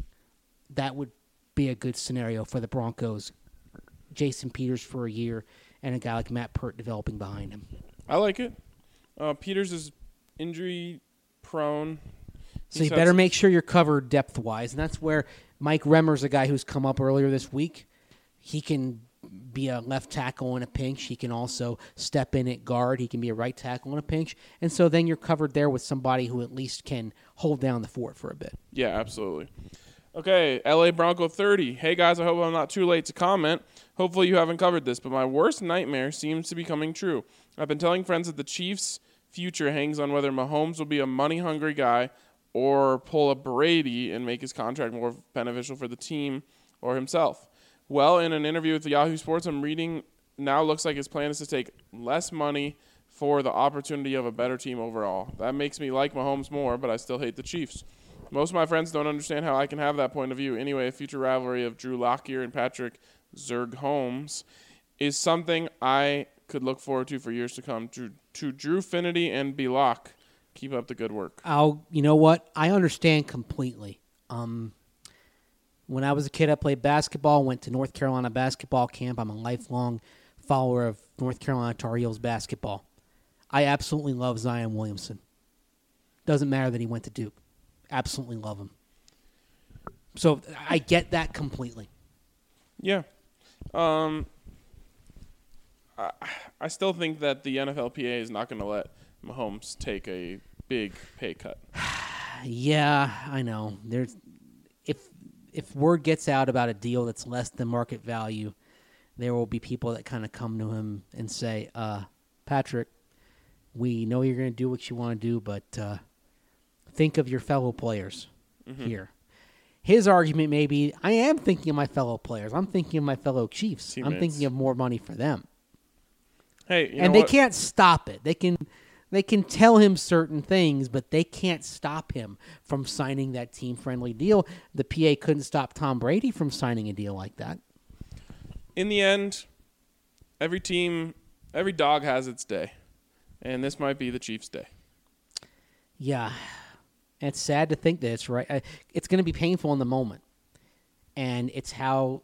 That would be a good scenario for the Broncos. Jason Peters for a year and a guy like Matt Pert developing behind him. I like it. Peters is injury prone. So you better make sure you're covered depth-wise, and that's where Mike Remmer's a guy who's come up earlier this week. He can be a left tackle in a pinch. He can also step in at guard. He can be a right tackle in a pinch. And so then you're covered there with somebody who at least can hold down the fort for a bit. Yeah, absolutely. Okay, LA Bronco 30. Hey, guys, I hope I'm not too late to comment. Hopefully you haven't covered this, but my worst nightmare seems to be coming true. I've been telling friends that the Chiefs' future hangs on whether Mahomes will be a money-hungry guy or pull a Brady and make his contract more beneficial for the team or himself. Well, in an interview with Yahoo Sports, I'm reading now looks like his plan is to take less money for the opportunity of a better team overall. That makes me like Mahomes more, but I still hate the Chiefs. Most of my friends don't understand how I can have that point of view. Anyway, a future rivalry of Drew Lockyer and Patrick Zerg Holmes is something I could look forward to for years to come. To Drew Finity and B-Lock, keep up the good work. You know what? I understand completely. When I was a kid, I played basketball, went to North Carolina basketball camp. I'm a lifelong follower of North Carolina Tar Heels basketball. I absolutely love Zion Williamson. Doesn't matter that he went to Duke. Absolutely love him. So I get that completely. Yeah. I still think that the NFLPA is not going to let Mahomes take a big pay cut. Yeah, I know. If word gets out about a deal that's less than market value, there will be people that kind of come to him and say, Patrick, we know you're going to do what you want to do, but think of your fellow players here. His argument may be, I am thinking of my fellow players. I'm thinking of my fellow Chiefs. Teammates. I'm thinking of more money for them. Hey, and they can't stop it. They can They can tell him certain things, but they can't stop him from signing that team-friendly deal. The PA couldn't stop Tom Brady from signing a deal like that. In the end, every dog has its day, and this might be the Chiefs' day. Yeah, and it's sad to think that it's right. It's going to be painful in the moment, and it's how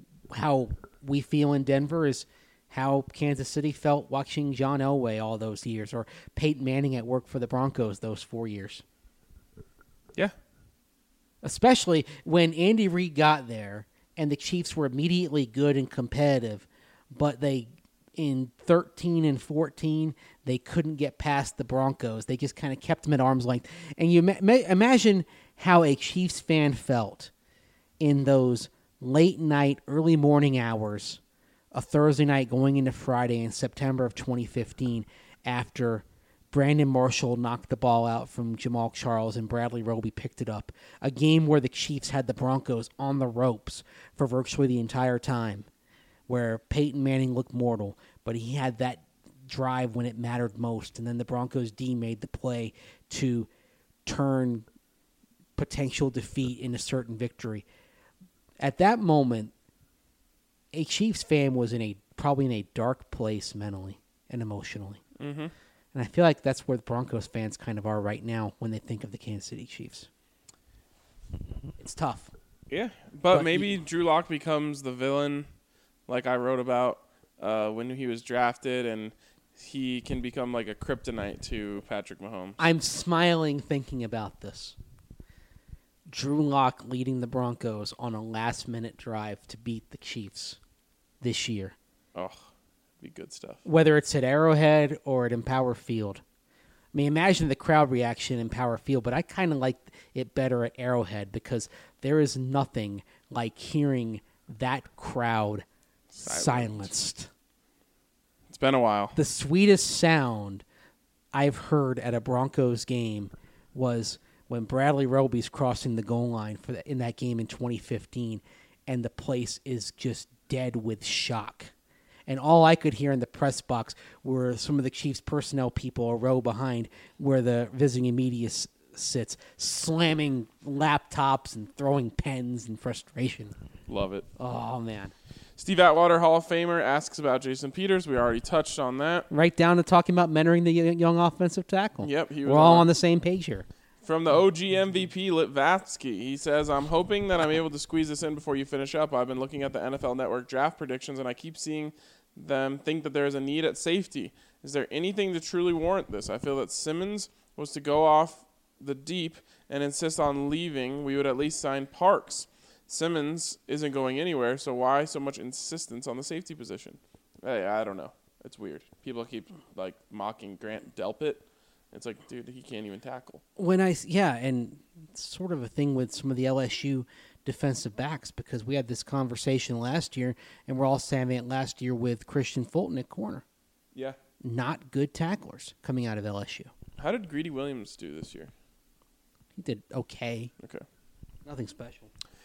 we feel in Denver is how Kansas City felt watching John Elway all those years, or Peyton Manning at work for the Broncos those 4 years. Yeah. Especially when Andy Reid got there and the Chiefs were immediately good and competitive, but in 13 and 14, they couldn't get past the Broncos. They just kind of kept them at arm's length. And you imagine how a Chiefs fan felt in those late night, early morning hours, a Thursday night going into Friday in September of 2015, after Brandon Marshall knocked the ball out from Jamal Charles and Bradley Roby picked it up. A game where the Chiefs had the Broncos on the ropes for virtually the entire time, where Peyton Manning looked mortal, but he had that drive when it mattered most, and then the Broncos D made the play to turn potential defeat into certain victory. At that moment, a Chiefs fan was probably in a dark place mentally and emotionally. Mm-hmm. And I feel like that's where the Broncos fans kind of are right now when they think of the Kansas City Chiefs. It's tough. Yeah, but maybe Drew Lock becomes the villain, like I wrote about when he was drafted, and he can become like a kryptonite to Patrick Mahomes. I'm smiling thinking about this. Drew Lock leading the Broncos on a last-minute drive to beat the Chiefs this year. Oh, be good stuff. Whether it's at Arrowhead or at Empower Field. I mean, imagine the crowd reaction in Empower Field, but I kind of like it better at Arrowhead because there is nothing like hearing that crowd silenced. It's been a while. The sweetest sound I've heard at a Broncos game was when Bradley Roby's crossing the goal line in that game in 2015, and the place is just dead with shock. And all I could hear in the press box were some of the Chiefs personnel people a row behind where the visiting media sits, slamming laptops and throwing pens in frustration. Love it. Oh, man. Steve Atwater, Hall of Famer, asks about Jason Peters. We already touched on that. Right down to talking about mentoring the young offensive tackle. Yep. We're all on the same page here. From the OG MVP, Litvatsky, he says, I'm hoping that I'm able to squeeze this in before you finish up. I've been looking at the NFL Network draft predictions, and I keep seeing them think that there is a need at safety. Is there anything to truly warrant this? I feel that Simmons was to go off the deep and insist on leaving. We would at least sign Parks. Simmons isn't going anywhere, so why so much insistence on the safety position? Hey, I don't know. It's weird. People keep like mocking Grant Delpit. It's like, dude, he can't even tackle. And it's sort of a thing with some of the LSU defensive backs because we had this conversation last year, and we're all saying it last year with Christian Fulton at corner. Yeah. Not good tacklers coming out of LSU. How did Greedy Williams do this year? He did okay. Okay. Nothing special.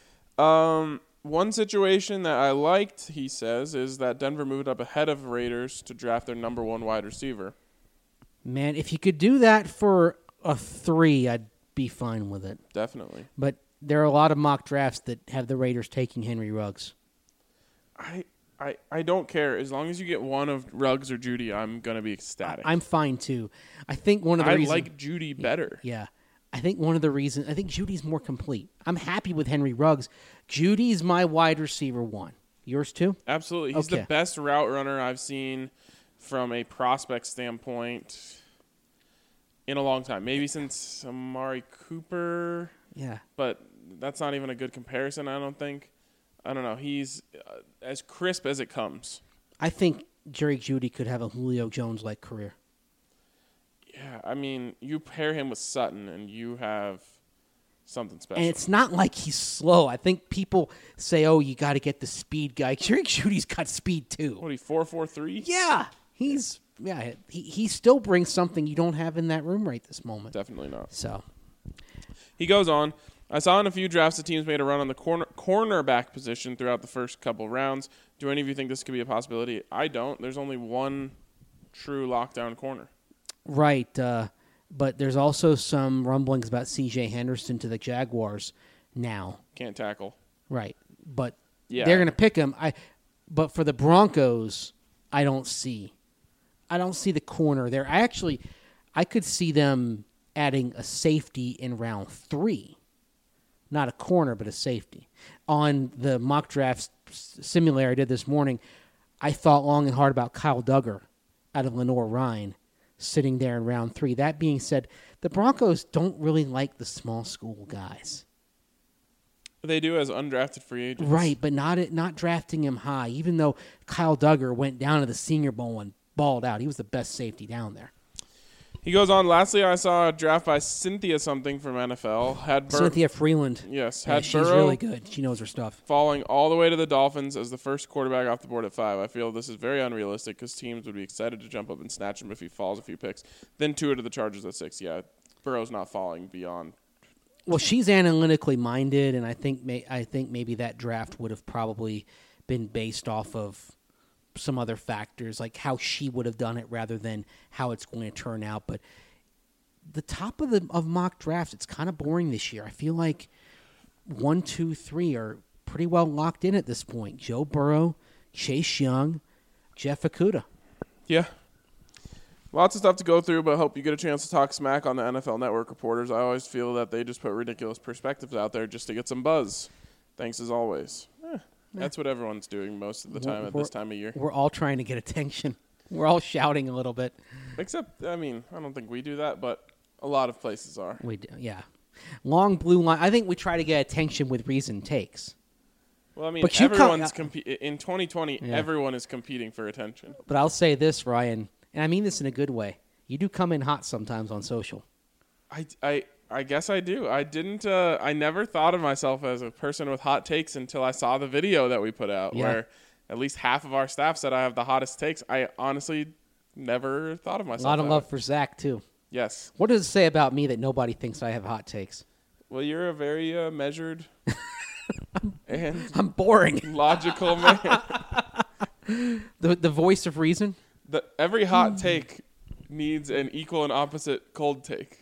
One situation that I liked, he says, is that Denver moved up ahead of Raiders to draft their number one wide receiver. Man, if you could do that for a 3, I'd be fine with it. Definitely. But there are a lot of mock drafts that have the Raiders taking Henry Ruggs. I don't care. As long as you get one of Ruggs or Judy, I'm going to be ecstatic. I'm fine, too. I think one of the reasons... I like Judy better. Yeah. I think one of the reasons... I think Judy's more complete. I'm happy with Henry Ruggs. Judy's my wide receiver 1. Yours, too? Absolutely. He's the best route runner I've seen from a prospect standpoint in a long time. Maybe since Amari Cooper. Yeah. But that's not even a good comparison, I don't think. I don't know. He's as crisp as it comes. I think Jerry Jeudy could have a Julio Jones-like career. Yeah, I mean, you pair him with Sutton, and you have something special. And it's not like he's slow. I think people say, oh, you got to get the speed guy. Jerry Judy's got speed, too. What, he 4.43? Yeah. He still brings something you don't have in that room right this moment. Definitely not. So he goes on. I saw in a few drafts the teams made a run on the cornerback position throughout the first couple rounds. Do any of you think this could be a possibility? I don't. There's only one true lockdown corner. Right. But there's also some rumblings about C.J. Henderson to the Jaguars now. Can't tackle. Right. But Yeah. they're going to pick him. But for the Broncos, I don't see the corner there. I could see them adding a safety in round 3. Not a corner, but a safety. On the mock draft simulator I did this morning, I thought long and hard about Kyle Duggar out of Lenore-Rhine sitting there in round 3. That being said, the Broncos don't really like the small school guys. They do as undrafted free agents. Right, but not drafting him high, even though Kyle Duggar went down to the Senior Bowl and balled out. He was the best safety down there. He goes on, lastly, I saw a draft by Cynthia something from NFL. Cynthia Freeland. Yes. Yeah, she's Burrow really good. She knows her stuff. falling all the way to the Dolphins as the first quarterback off the board at 5. I feel this is very unrealistic because teams would be excited to jump up and snatch him if he falls a few picks. Then Tua to the Chargers at 6. Yeah, Burrow's not falling beyond. Well, she's analytically minded, and I think maybe that draft would have probably been based off of some other factors, like how she would have done it rather than how it's going to turn out. But the top of mock drafts, it's kind of boring this year. I feel like 1, 2, 3 are pretty well locked in at this point. Joe Burrow, Chase Young, Jeff Okudah. Yeah. Lots of stuff to go through, but hope you get a chance to talk smack on the NFL Network reporters. I always feel that they just put ridiculous perspectives out there just to get some buzz. Thanks as always. That's what everyone's doing most of the time at this time of year. We're all trying to get attention. We're all shouting a little bit. Except, I don't think we do that, but a lot of places are. We do, yeah. Long blue line. I think we try to get attention with reasoned takes. Well, But everyone's in 2020. Yeah. Everyone is competing for attention. But I'll say this, Ryan, and I mean this in a good way. You do come in hot sometimes on social. I guess I do. I didn't. I never thought of myself as a person with hot takes until I saw the video that we put out, where at least half of our staff said I have the hottest takes. I honestly never thought of myself. A lot of love for Zach too. Yes. What does it say about me that nobody thinks I have hot takes? Well, you're a very measured and I'm boring. Logical man. The voice of reason. Every hot take needs an equal and opposite cold take.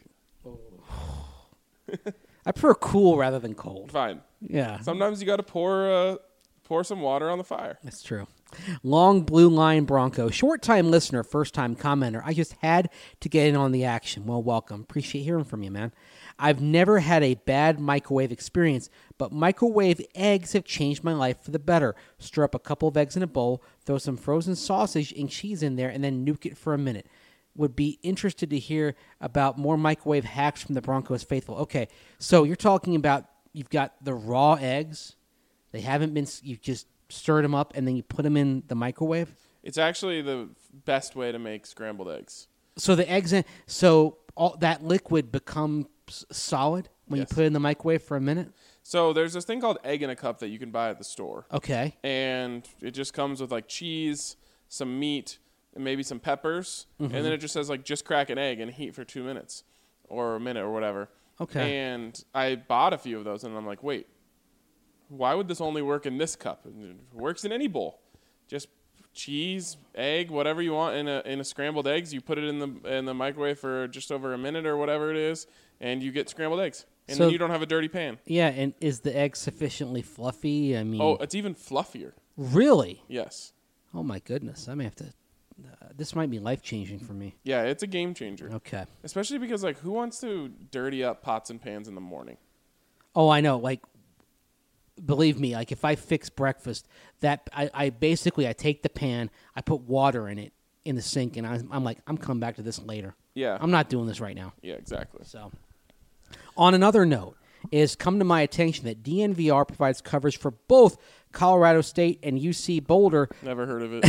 I prefer cool rather than cold. Fine. Yeah. Sometimes you got to pour some water on the fire. That's true. Long blue line Bronco. Short-time listener, first-time commenter. I just had to get in on the action. Well, welcome. Appreciate hearing from you, man. I've never had a bad microwave experience, but microwave eggs have changed my life for the better. Stir up a couple of eggs in a bowl, throw some frozen sausage and cheese in there, and then nuke it for a minute. Would be interested to hear about more microwave hacks from the Broncos faithful. Okay, so you're talking about you've got the raw eggs. They haven't been, you've just stirred them up and then you put them in the microwave? It's actually the best way to make scrambled eggs. So the eggs, so all that liquid becomes solid when you put it in the microwave for a minute? So there's this thing called egg in a cup that you can buy at the store. Okay. And it just comes with like cheese, some meat, and maybe some peppers, and then it just says like just crack an egg and heat for 2 minutes or a minute or whatever. Okay. And I bought a few of those, and I'm like, wait, why would this only work in this cup? It works in any bowl. Just cheese, egg, whatever you want in a scrambled eggs. You put it in the microwave for just over a minute or whatever it is, and you get scrambled eggs. And then you don't have a dirty pan. Yeah, and is the egg sufficiently fluffy? I mean, it's even fluffier. Really? Yes. Oh my goodness! I may have to. This might be life-changing for me. Yeah, it's a game changer. Okay. Especially because, like, who wants to dirty up pots and pans in the morning? Oh, I know. Like, believe me, like if I fix breakfast, that I basically take the pan, I put water in it in the sink, and I'm like, I'm coming back to this later. Yeah. I'm not doing this right now. Yeah, exactly. So, on another note, it has come to my attention that DNVR provides coverage for both Colorado State and UC Boulder. Never heard of it.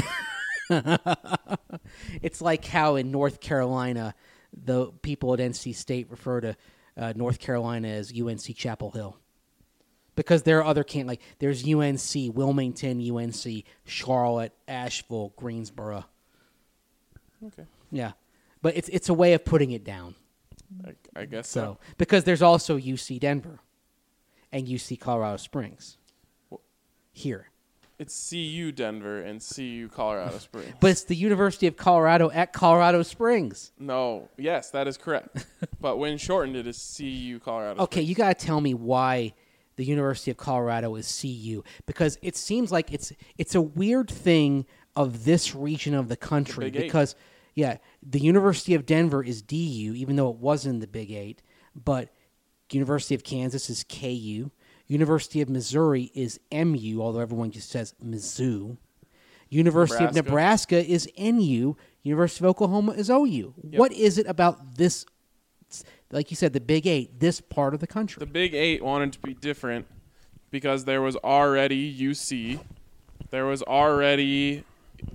It's like how in North Carolina, the people at NC State refer to North Carolina as UNC Chapel Hill. Because there are other like there's UNC, Wilmington, UNC, Charlotte, Asheville, Greensboro. Okay. Yeah. But it's a way of putting it down. I guess so. Because there's also UC Denver and UC Colorado Springs here. It's CU Denver and CU Colorado Springs. But it's the University of Colorado at Colorado Springs. No, yes, that is correct. But when shortened, it is CU Colorado Okay, Springs. you got to tell me why the University of Colorado is CU, because it seems like it's a weird thing of this region of the country. Big Eight. Because the University of Denver is DU, even though it was in the Big Eight, but University of Kansas is KU. University of Missouri is MU, although everyone just says Mizzou. University of Nebraska is NU. University of Oklahoma is OU. Yep. What is it about this, like you said, the Big Eight, this part of the country? The Big Eight wanted to be different because there was already UC. There was already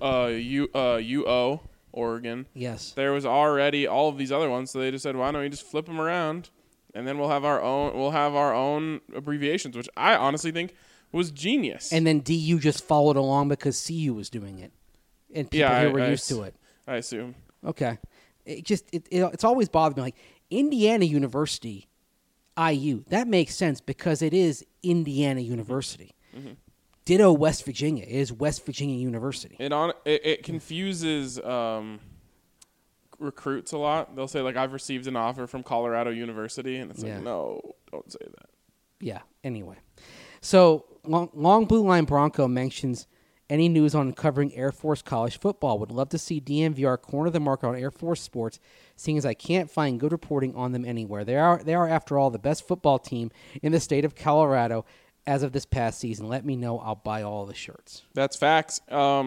UO, Oregon. Yes. There was already all of these other ones, so they just said, why don't we just flip them around? And then we'll have our own abbreviations, which I honestly think was genius. And then DU just followed along because CU was doing it, and people here were used to it. I assume. Okay, it's always bothered me. Like Indiana University, IU, that makes sense because it is Indiana University. Mm-hmm. Ditto West Virginia. It is West Virginia University. It confuses recruits a lot. They'll say, like, I've received an offer from Colorado University, and it's like, no, don't say that. Yeah, anyway. So, Long Blue Line Bronco mentions any news on covering Air Force college football. Would love to see DNVR corner the market on Air Force sports, seeing as I can't find good reporting on them anywhere. They are, after all, the best football team in the state of Colorado as of this past season. Let me know. I'll buy all the shirts. That's facts.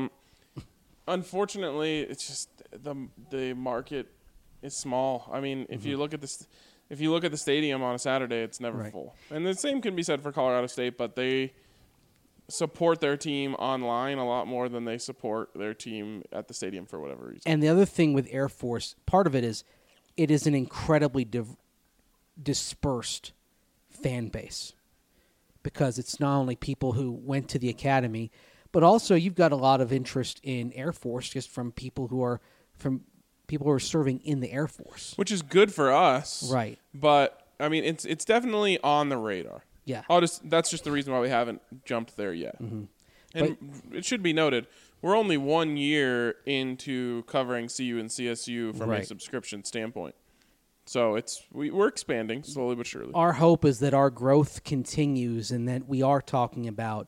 Unfortunately, it's just the market is small. I mean, if you look at this, if you look at the stadium on a Saturday, it's never full. And the same can be said for Colorado State, but they support their team online a lot more than they support their team at the stadium for whatever reason. And the other thing with Air Force, part of it is an incredibly dispersed fan base, because it's not only people who went to the academy, but also you've got a lot of interest in Air Force just from people who are serving in the Air Force, which is good for us, right? But I mean, it's definitely on the radar. Yeah, that's just the reason why we haven't jumped there yet. Mm-hmm. And it should be noted, we're only 1 year into covering CU and CSU from a subscription standpoint. So we're expanding slowly but surely. Our hope is that our growth continues and that we are talking about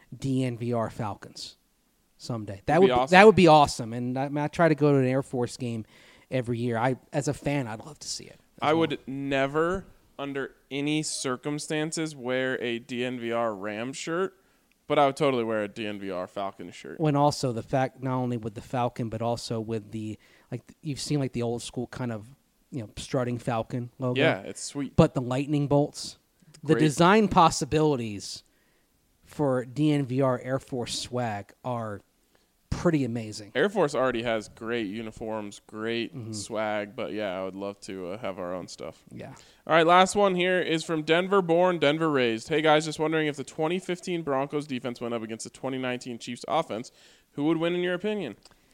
DNVR Falcons someday. That would be awesome. And I try to go to an Air Force game every year. As a fan, I'd love to see it. I would never, under any circumstances, wear a DNVR Rams shirt, but I would totally wear a DNVR Falcons shirt. When also the fact, not only with the Falcon, but also with you've seen like the old school kind of, strutting Falcon logo. Yeah, it's sweet. But the lightning bolts, the design possibilities for DNVR Air Force swag are pretty amazing. Air Force already has great uniforms, great swag, but yeah, I would love to have our own stuff. Yeah. All right, last one here is from Denver born, Denver raised. Hey guys, just wondering if the 2015 Broncos defense went up against the 2019 Chiefs offense, who would win in your opinion?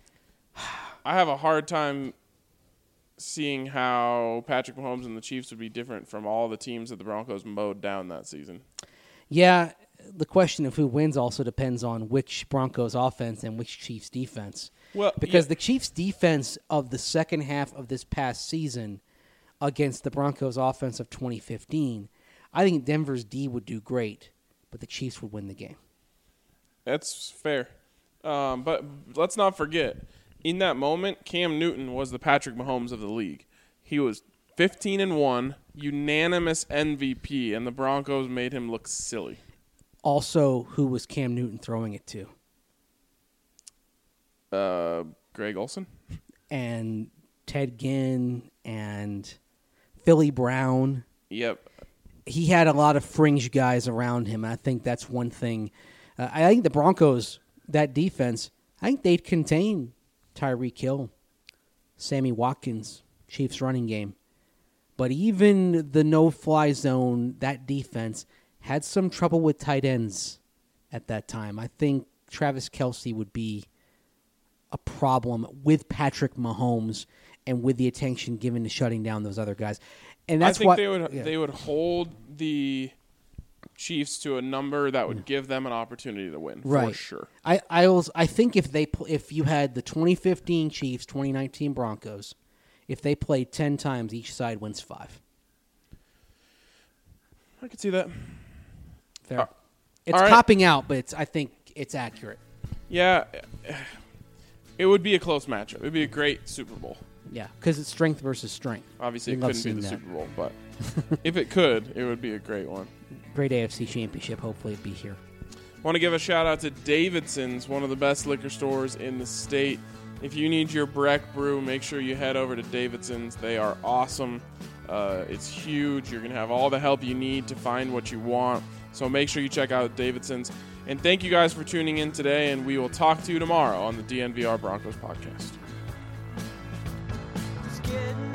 I have a hard time seeing how Patrick Mahomes and the Chiefs would be different from all the teams that the Broncos mowed down that season. Yeah, the question of who wins also depends on which Broncos offense and which Chiefs defense. Well, because the Chiefs defense of the second half of this past season against the Broncos offense of 2015, I think Denver's D would do great, but the Chiefs would win the game. That's fair. But let's not forget, in that moment, Cam Newton was the Patrick Mahomes of the league. He was 15-1, unanimous MVP, and the Broncos made him look silly. Also, who was Cam Newton throwing it to? Greg Olsen. And Ted Ginn and Philly Brown. Yep. He had a lot of fringe guys around him. I think that's one thing. I think the Broncos, that defense, I think they'd contain Tyreek Hill, Sammy Watkins, Chiefs running game. But even the no-fly zone, that defense had some trouble with tight ends at that time. I think Travis Kelce would be a problem with Patrick Mahomes and with the attention given to shutting down those other guys. And that's I think they would hold the Chiefs to a number that would give them an opportunity to win, Right. for sure. I think if you had the 2015 Chiefs, 2019 Broncos, if they played 10 times, each side wins 5. I could see that. Fair. It's right. copping out, but I think it's accurate. Yeah, it would be a close matchup. It would be a great Super Bowl. Yeah, because it's strength versus strength. Obviously, it We love couldn't be seeing the that. Super Bowl, but if it could, it would be a great one. Great AFC Championship. Hopefully, it'd be here. Want to give a shout out to Davidson's, one of the best liquor stores in the state. If you need your Breck brew, make sure you head over to Davidson's. They are awesome. It's huge. You're going to have all the help you need to find what you want. So make sure you check out Davidson's. And thank you guys for tuning in today, and we will talk to you tomorrow on the DNVR Broncos podcast. It's getting